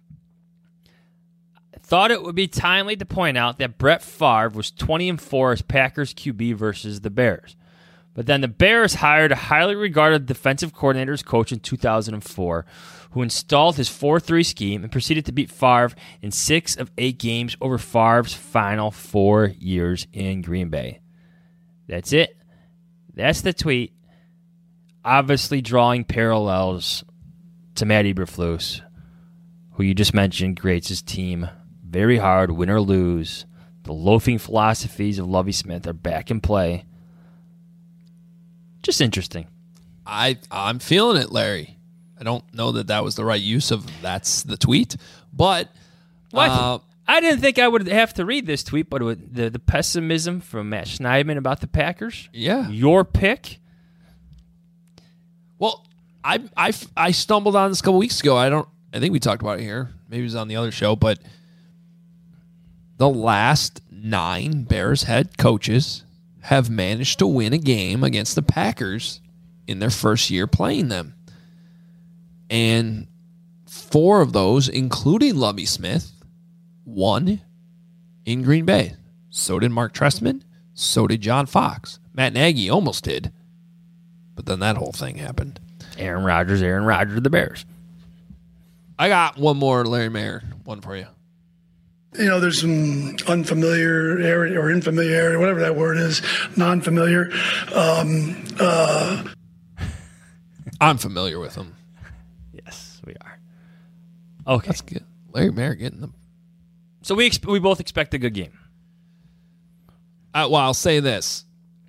Thought it would be timely to point out that Brett Favre was twenty and four as Packers Q B versus the Bears. But then the Bears hired a highly regarded defensive coordinator's coach in two thousand four who installed his four three scheme and proceeded to beat Favre in six of eight games over Favre's final four years in Green Bay. That's it. That's the tweet. Obviously drawing parallels to Matt Eberflus, who you just mentioned grades his team very hard, win or lose. The loafing philosophies of Lovie Smith are back in play. Just interesting. I, I'm feeling it, Larry. I don't know that that was the right use of that's the tweet, but What? uh, I didn't think I would have to read this tweet, but with the, the pessimism from Matt Schneidman about the Packers, yeah. your pick. Well, I, I, I stumbled on this a couple weeks ago. I don't. I think we talked about it here. Maybe it was on the other show, but the last nine Bears head coaches have managed to win a game against the Packers in their first year playing them, and four of those, including Lovie Smith, won in Green Bay. So did Mark Trestman. So did John Fox. Matt Nagy almost did, but then that whole thing happened. Aaron Rodgers, Aaron Rodgers, the Bears. I got one more Larry Mayer one for you. You know, there's some unfamiliar area or infamiliarity, whatever that word is, non-familiar. Um, uh, I'm familiar with him. Yes, we are. Okay. That's good. Larry Mayer getting them. So we ex- we both expect a good game. Uh, well, I'll say this.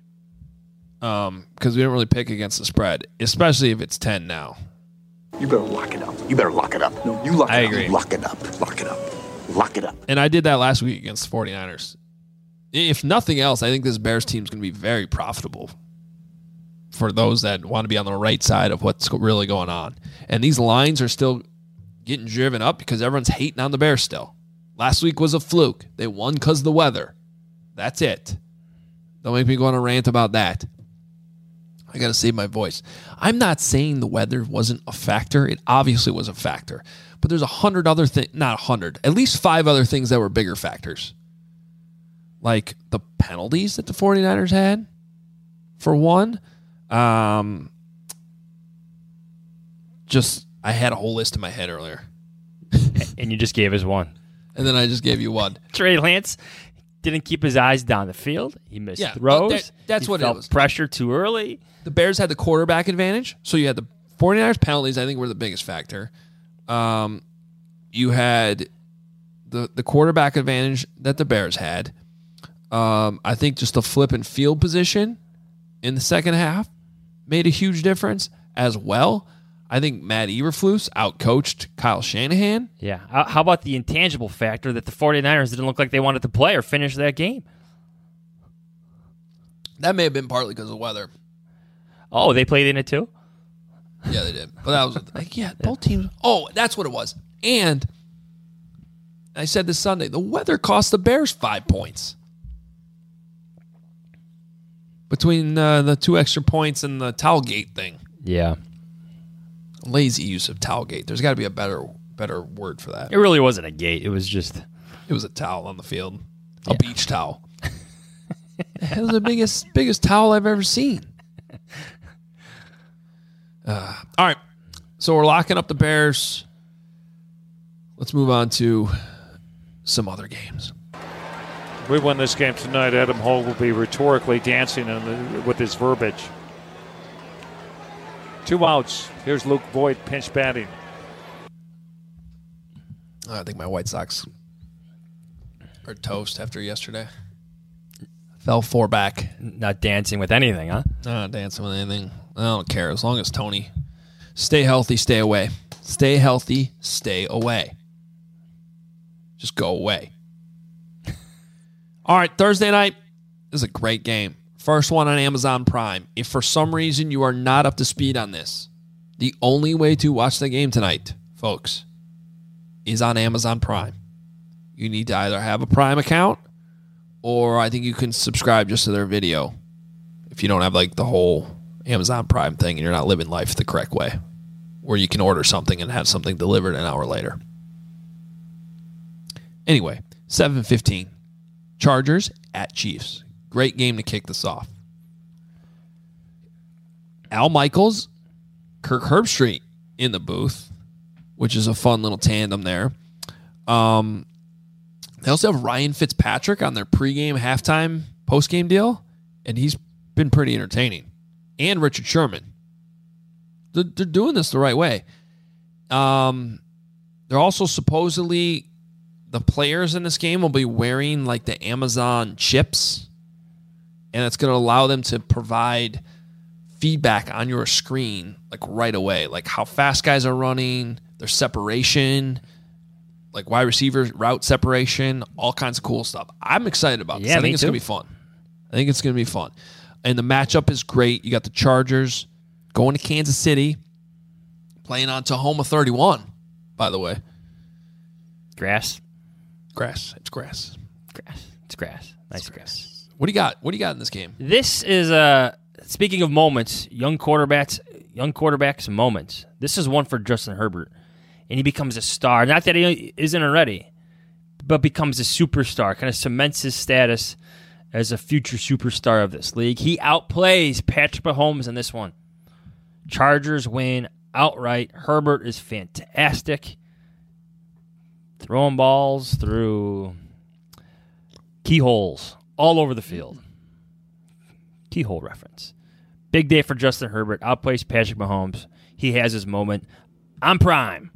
Um, because we don't really pick against the spread, especially if it's ten now. You better lock it up. You better lock it up. No, you lock I it agree. up. Lock it up. Lock it up. Lock it up. And I did that last week against the 49ers. If nothing else, I think this Bears team is going to be very profitable for those that want to be on the right side of what's really going on. And these lines are still getting driven up because everyone's hating on the Bears still. Last week was a fluke. They won because of the weather. That's it. Don't make me go on a rant about that. I got to save my voice. I'm not saying the weather wasn't a factor. It obviously was a factor. But there's a hundred other things, not a hundred, at least five other things that were bigger factors. Like the penalties that the 49ers had, for one. Um, just, I had a whole list in my head earlier. And you just gave us one. And then I just gave you one. Trey Lance didn't keep his eyes down the field. He missed Yeah, throws. that- that's He what it felt was. Pressure too early. The Bears had the quarterback advantage. So you had the 49ers penalties, I think, were the biggest factor. Um, you had the, the quarterback advantage that the Bears had. Um, I think just the flip and field position in the second half made a huge difference as well. I think Matt Eberflus outcoached Kyle Shanahan. Yeah. How how about the intangible factor that the 49ers didn't look like they wanted to play or finish that game? That may have been partly because of weather. Oh, they played in it too? Yeah, they did. But that was like, yeah, both teams. Oh, that's what it was. And I said this Sunday, the weather cost the Bears five points. Between uh, the two extra points and the Towelgate thing. Yeah. Lazy use of Towelgate. There's got to be a better better word for that. It really wasn't a gate. It was just... It was a towel on the field. A Yeah. beach towel. It was the biggest biggest towel I've ever seen. Uh, all right. So we're locking up the Bears. Let's move on to some other games. We win this game tonight, Adam Hogue will be rhetorically dancing in the, with his verbiage. Two outs. Here's Luke Voigt pinch batting. I think my White Sox are toast after yesterday. Fell four back. Not dancing with anything, huh? Not dancing with anything. I don't care. As long as Tony stay healthy, stay away. Stay healthy, stay away. Just go away. All right, Thursday night is a great game. First one on Amazon Prime. If for some reason you are not up to speed on this, the only way to watch the game tonight, folks, is on Amazon Prime. You need to either have a Prime account or I think you can subscribe just to their video if you don't have like the whole Amazon Prime thing and you're not living life the correct way, where you can order something and have something delivered an hour later. Anyway, seven fifteen. Chargers at Chiefs. Great game to kick this off. Al Michaels, Kirk Herbstreit in the booth, which is a fun little tandem there. Um, they also have Ryan Fitzpatrick on their pregame, halftime, postgame deal, and he's been pretty entertaining. And Richard Sherman. They're, they're doing this the right way. Um, they're also supposedly... The players in this game will be wearing like the Amazon chips, and it's going to allow them to provide feedback on your screen like right away, like how fast guys are running, their separation, like wide receiver route separation, all kinds of cool stuff. I'm excited about this. Yeah, I think me it's too. going to be fun. I think it's going to be fun. And the matchup is great. You got the Chargers going to Kansas City, playing on Tahoma thirty-one, by the way. Grass. Grass. It's grass. Grass. It's grass. Nice grass. What do you got? What do you got in this game? This is uh speaking of moments, young quarterbacks, young quarterbacks moments. This is one for Justin Herbert, and he becomes a star. Not that he isn't already, but becomes a superstar. Kind of cements his status as a future superstar of this league. He outplays Patrick Mahomes in this one. Chargers win outright. Herbert is fantastic. Throwing balls through keyholes all over the field. Keyhole reference. Big day for Justin Herbert. Outplays Patrick Mahomes. He has his moment. I'm prime.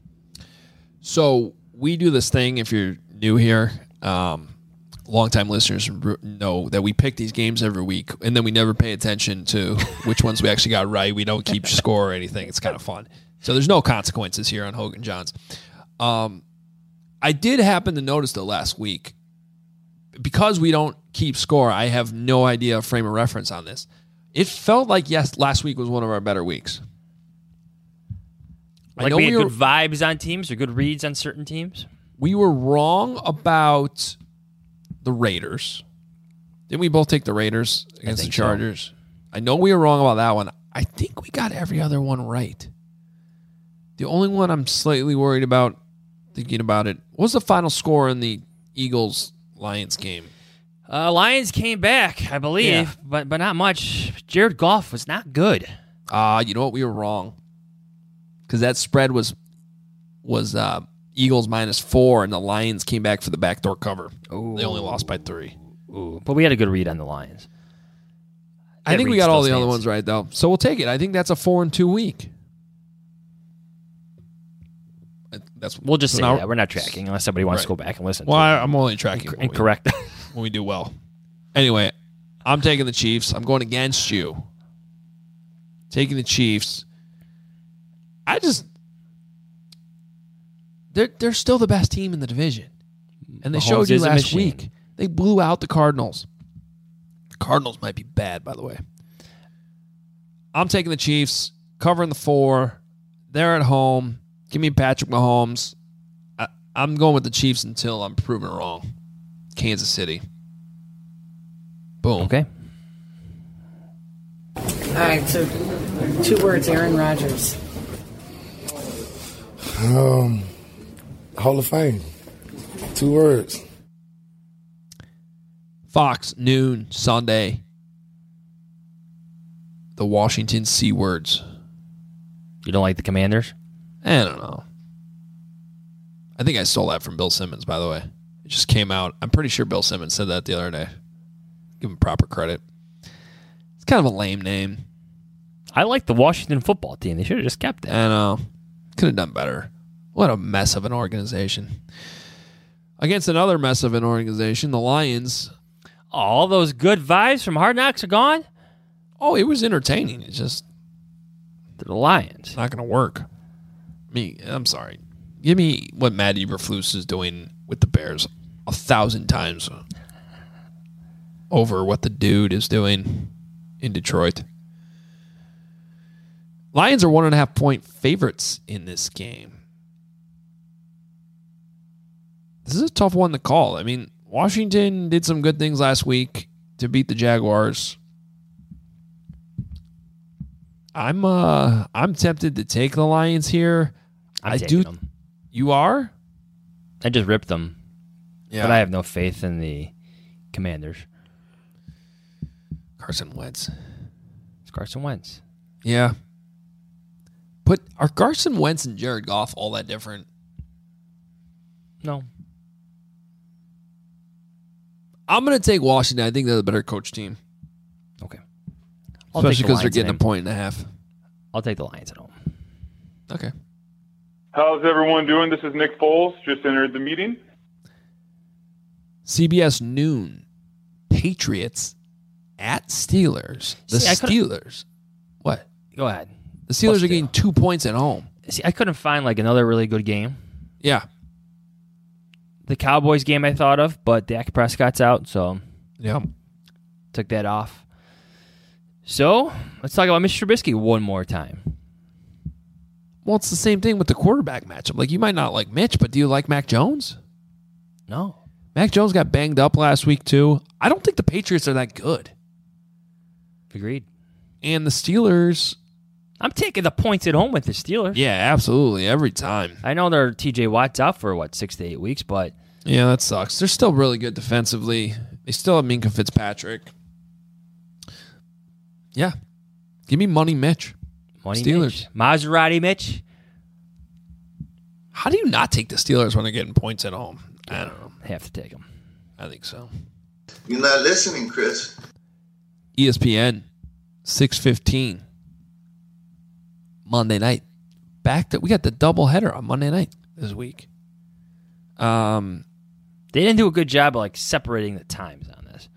So we do this thing, if you're new here, um, longtime listeners know that we pick these games every week, and then we never pay attention to which ones we actually got right. We don't keep score or anything. It's kind of fun. So there's no consequences here on Hogan Johns. Um, I did happen to notice though last week, because we don't keep score, I have no idea of frame of reference on this. It felt like, yes, last week was one of our better weeks. Like I know we had we were, good vibes on teams or good reads on certain teams. We were wrong about the Raiders. Didn't we both take the Raiders against the Chargers? So. I know we were wrong about that one. I think we got every other one right. The only one I'm slightly worried about, thinking about it, what was the final score in the Eagles-Lions game? Uh, Lions came back, I believe, Yeah. but but not much. Jared Goff was not good. Ah, uh, you know what? We were wrong. Because that spread was was uh, Eagles minus four, and the Lions came back for the backdoor cover. Ooh. They only lost by three. Ooh, but we had a good read on the Lions. I That think we read got all the still other stands. ones right, though. So we'll take it. I think that's a four and two week. That's We'll just so say now- that. We're not tracking unless somebody wants to Right. go back and listen Well, to I, it. I'm only tracking Inc- when we- incorrect. when we do well. Anyway, I'm taking the Chiefs. I'm going against you. Taking the Chiefs. I just they're they're still the best team in the division. And they Mahomes showed you is a last machine. week. They blew out the Cardinals. The Cardinals might be bad, by the way. I'm taking the Chiefs, covering the four. They're at home. Give me Patrick Mahomes. I, I'm going with the Chiefs until I'm proven wrong. Kansas City. Boom. Okay. All right, so two words, Aaron Rodgers. Um, Hall of Fame. Two words. Fox, noon, Sunday. The Washington C words. You don't like the Commanders? I don't know. I think I stole that from Bill Simmons, by the way. It just came out. I'm pretty sure Bill Simmons said that the other day. Give him proper credit. It's kind of a lame name. I like the Washington football team. They should have just kept it. I know. Could have done better. What a mess of an organization. Against another mess of an organization, the Lions. All those good vibes from Hard Knocks are gone? Oh, it was entertaining. It's just the Lions. Not going to work. Me, I'm sorry. Give me what Matt Eberflus is doing with the Bears a thousand times over what the dude is doing in Detroit. Lions are one and a half point favorites in this game. This is a tough one to call. I mean, Washington did some good things last week to beat the Jaguars. I'm uh I'm tempted to take the Lions here. I'm I taking do. them. You are? I just ripped them. Yeah. But I have no faith in the Commanders. Carson Wentz. It's Carson Wentz. Yeah. But are Carson Wentz and Jared Goff all that different? No. I'm going to take Washington. I think they're the better coach team. Okay. Especially because they're getting a point and a half. I'll take the Lions at home. Okay. How's everyone doing? This is Nick Foles. Just entered the meeting. C B S noon. Patriots at Steelers. The See, I couldn't- Steelers. What? Go ahead. The Steelers Let's are do. getting two points at home. See, I couldn't find like another really good game. Yeah. The Cowboys game I thought of, but Dak Prescott's out, so yeah, took that off. So let's talk about Mister Trubisky one more time. Well, it's the same thing with the quarterback matchup. Like, you might not like Mitch, but do you like Mac Jones? No. Mac Jones got banged up last week, too. I don't think the Patriots are that good. Agreed. And the Steelers. I'm taking the points at home with the Steelers. Yeah, absolutely. Every time. I know they're T J Watt's out for, what, six to eight weeks, but. Yeah, that sucks. They're still really good defensively. They still have Minka Fitzpatrick. Yeah. Give me money, Mitch. Money Steelers. Mitch. Maserati Mitch. How do you not take the Steelers when they're getting points at home? I don't know. Have to take them. I think so. You're not listening, Chris. E S P N, six fifteen. Monday night. Back to, we got the doubleheader on Monday night this week. Um, They didn't do a good job of like separating the times on this.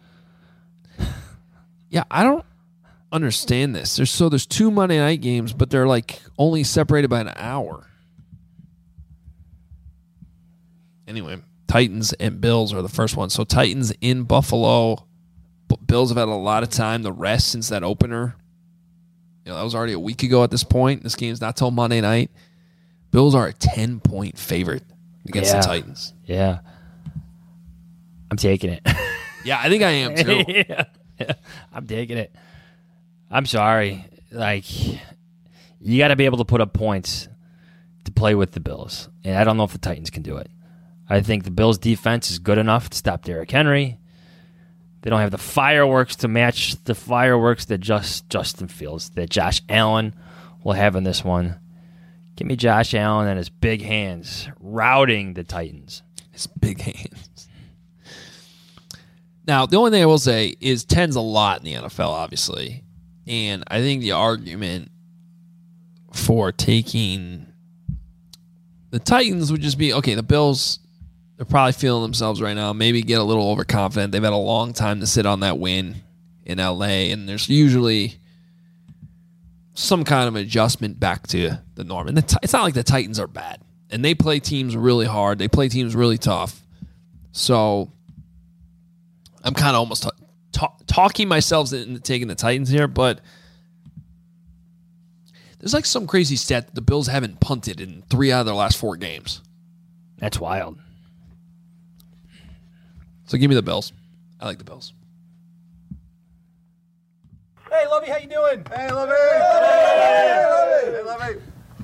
Yeah, I don't understand this. There's so there's two Monday night games, but they're like only separated by an hour. Anyway, Titans and Bills are the first one. So Titans in Buffalo. B- Bills have had a lot of time to rest since that opener. You know, that was already a week ago at this point. This game's not till Monday night. Bills are a ten-point favorite against Yeah. the Titans. Yeah. I'm taking it. Yeah, I think I am too. yeah. Yeah. I'm taking it. I'm sorry. Like, you got to be able to put up points to play with the Bills. And I don't know if the Titans can do it. I think the Bills' defense is good enough to stop Derrick Henry. They don't have the fireworks to match the fireworks that just Justin Fields, that Josh Allen will have in this one. Give me Josh Allen and his big hands routing the Titans. His big hands. Now, the only thing I will say is ten's a lot in the N F L, obviously. And I think the argument for taking The Titans would just be, okay, the Bills, they're probably feeling themselves right now. Maybe get a little overconfident. They've had a long time to sit on that win in L A, and there's usually some kind of adjustment back to the norm. And the t- it's not like the Titans are bad. And they play teams really hard. They play teams really tough. So I'm kind of almost t- t- talking myself into taking the Titans here, but there's like some crazy stat that the Bills haven't punted in three out of their last four games. That's wild. So give me the Bills. I like the Bills. Hey, Lovey, how you doing? Hey, Lovey. Hey, Lovey.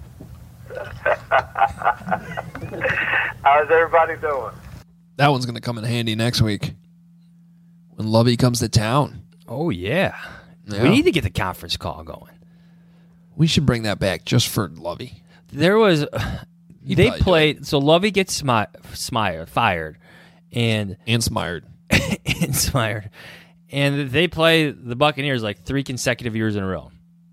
How's everybody doing? That one's going to come in handy next week when Lovey comes to town. Oh, yeah. Yeah. We need to get the conference call going. We should bring that back just for Lovey. There was, uh, He'd they probably do played, so Lovey gets smi- smired, fired, and And smired. and smired, and they play the Buccaneers like three consecutive years in a row.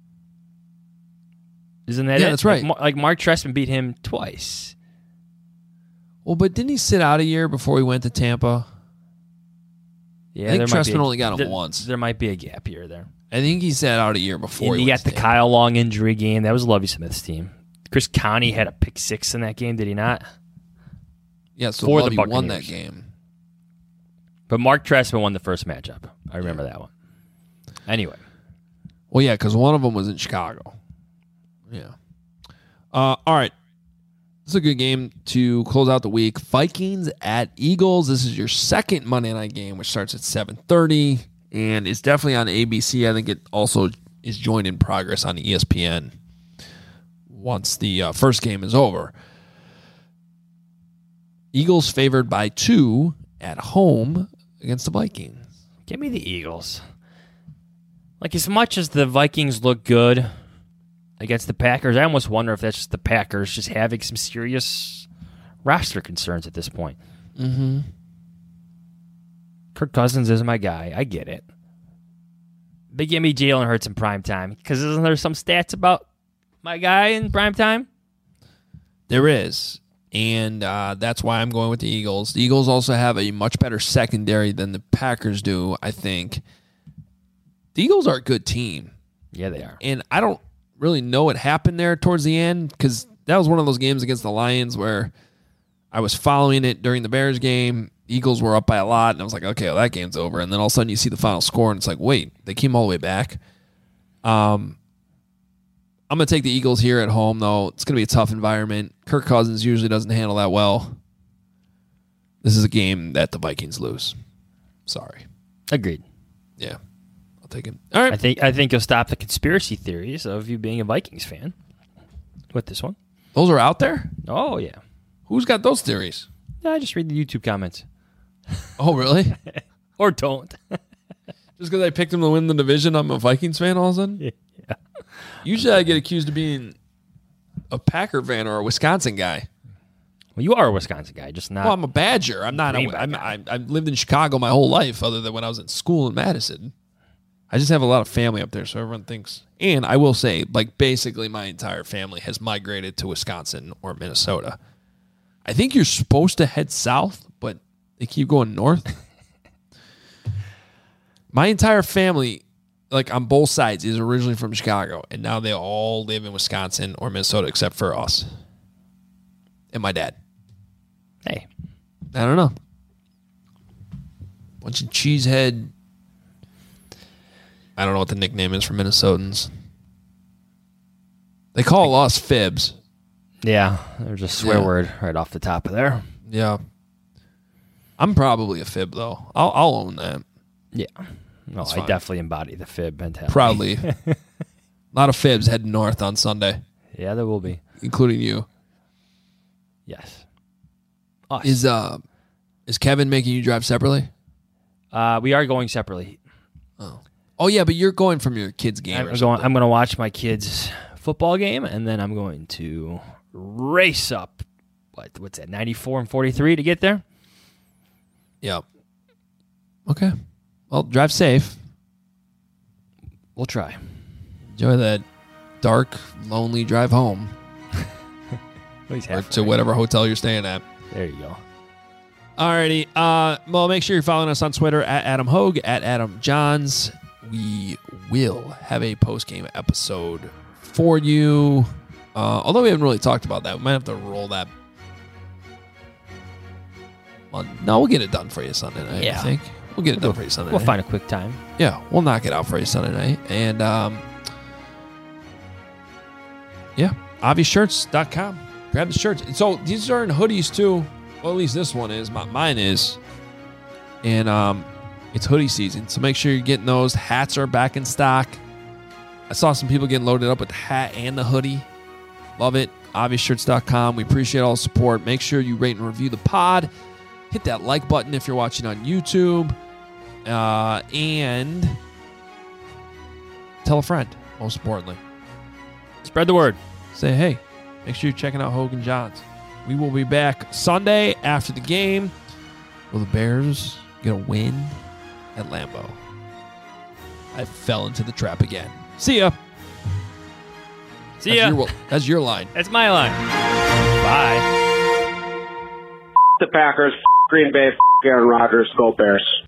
Isn't that Yeah, it? that's right. Like, like Mark Trestman beat him twice. Well, but didn't he sit out a year before he went to Tampa? Yeah, I think there might be Trestman a- only got him there- once. There might be a gap year there. I think he sat out a year before And he you went got the to Tampa. Kyle Long injury game. That was Lovie Smith's team. Chris Connie had a pick six in that game, did he not? Yeah, so For the Lovey won that Buccaneers. game. But Mark Trestman won the first matchup. I remember that one. Anyway. Well, yeah, because one of them was in Chicago. Yeah. Uh, all right. This is a good game to close out the week. Vikings at Eagles. This is your second Monday night game, which starts at seven thirty, and it's definitely on A B C. I think it also is joined in progress on E S P N once the uh, first game is over. Eagles favored by two at home against the Vikings. Give me the Eagles. Like, as much as the Vikings look good against the Packers, I almost wonder if that's just the Packers just having some serious roster concerns at this point. Mm-hmm. Kirk Cousins is my guy. I get it. But give me Jalen Hurts in prime time. Because isn't there some stats about my guy in prime time? There is. And uh, that's why I'm going with the Eagles. The Eagles also have a much better secondary than the Packers do, I think. The Eagles are a good team. Yeah, they are. And I don't really know what happened there towards the end, because that was one of those games against the Lions where I was following it during the Bears game. Eagles were up by a lot, and I was like, okay, well, that game's over. And then all of a sudden you see the final score, and it's like, wait, they came all the way back. Um, I'm going to take the Eagles here at home, though. It's going to be a tough environment. Kirk Cousins usually doesn't handle that well. This is a game that the Vikings lose. Sorry. Agreed. Yeah. I'll take it. All right. I think I think you'll stop the conspiracy theories of you being a Vikings fan with this one. Those are out there? Oh, yeah. Who's got those theories? Yeah, I just read the YouTube comments. Oh, really? Or don't. Just because I picked him to win the division, I'm a Vikings fan all of a sudden? Yeah. Usually I get accused of being a Packer fan or a Wisconsin guy. Well, you are a Wisconsin guy, just not. Well, I'm a Badger. I'm not. Green A, Bay I'm, guy. I, I've lived in Chicago my whole life, other than when I was in school in Madison. I just have a lot of family up there, so everyone thinks. And I will say, like, basically my entire family has migrated to Wisconsin or Minnesota. I think you're supposed to head south, but they keep going north. My entire family, like on both sides, is originally from Chicago, and now they all live in Wisconsin or Minnesota, except for us and my dad. Hey, I don't know. Bunch of cheesehead. I don't know what the nickname is for Minnesotans. They call us fibs. Yeah, there's a swear Yeah. word right off the top of there. Yeah. I'm probably a fib, though. I'll, I'll own that. Yeah. No, That's I fine. definitely embody the fib mentality. Proudly. A lot of fibs heading north on Sunday, Yeah, there will be. including you. Yes. Us. Is uh, is Kevin making you drive separately? Uh, we are going separately. Oh. Oh, yeah, but you're going from your kid's game I'm or going. something. I'm going to watch my kids' football game, and then I'm going to race up. What? What's that? ninety-four and forty-three to get there. Yeah. Okay. Well, drive safe. We'll try. Enjoy that dark, lonely drive home. or to whatever hotel you're staying at. There you go. Alrighty. Uh, well, make sure you're following us on Twitter at Adam Hogue, at Adam Johns. We will have a post-game episode for you. Uh, although we haven't really talked about that. We might have to roll that. Well, no, we'll get it done for you Sunday night, Yeah. I think. We'll get it We'll done for you Sunday We'll night. find a quick time. Yeah, we'll knock it out for you Sunday night. And, um, yeah, avi shirts dot com. Grab the shirts. So these are in hoodies, too. Well, at least this one is. My, mine is. And um, it's hoodie season. So make sure you're getting those. Hats are back in stock. I saw some people getting loaded up with the hat and the hoodie. Love it. avi shirts dot com. We appreciate all the support. Make sure you rate and review the pod. Hit that like button if you're watching on YouTube. Uh, and tell a friend, most importantly. Spread the word. Say, hey, make sure you're checking out Hogan Johns. We will be back Sunday after the game. Will the Bears get a win at Lambeau? I fell into the trap again. See ya. See that's ya. Your, that's your line. That's my line. Bye. The Packers, Green Bay, Aaron Rodgers, go Bears.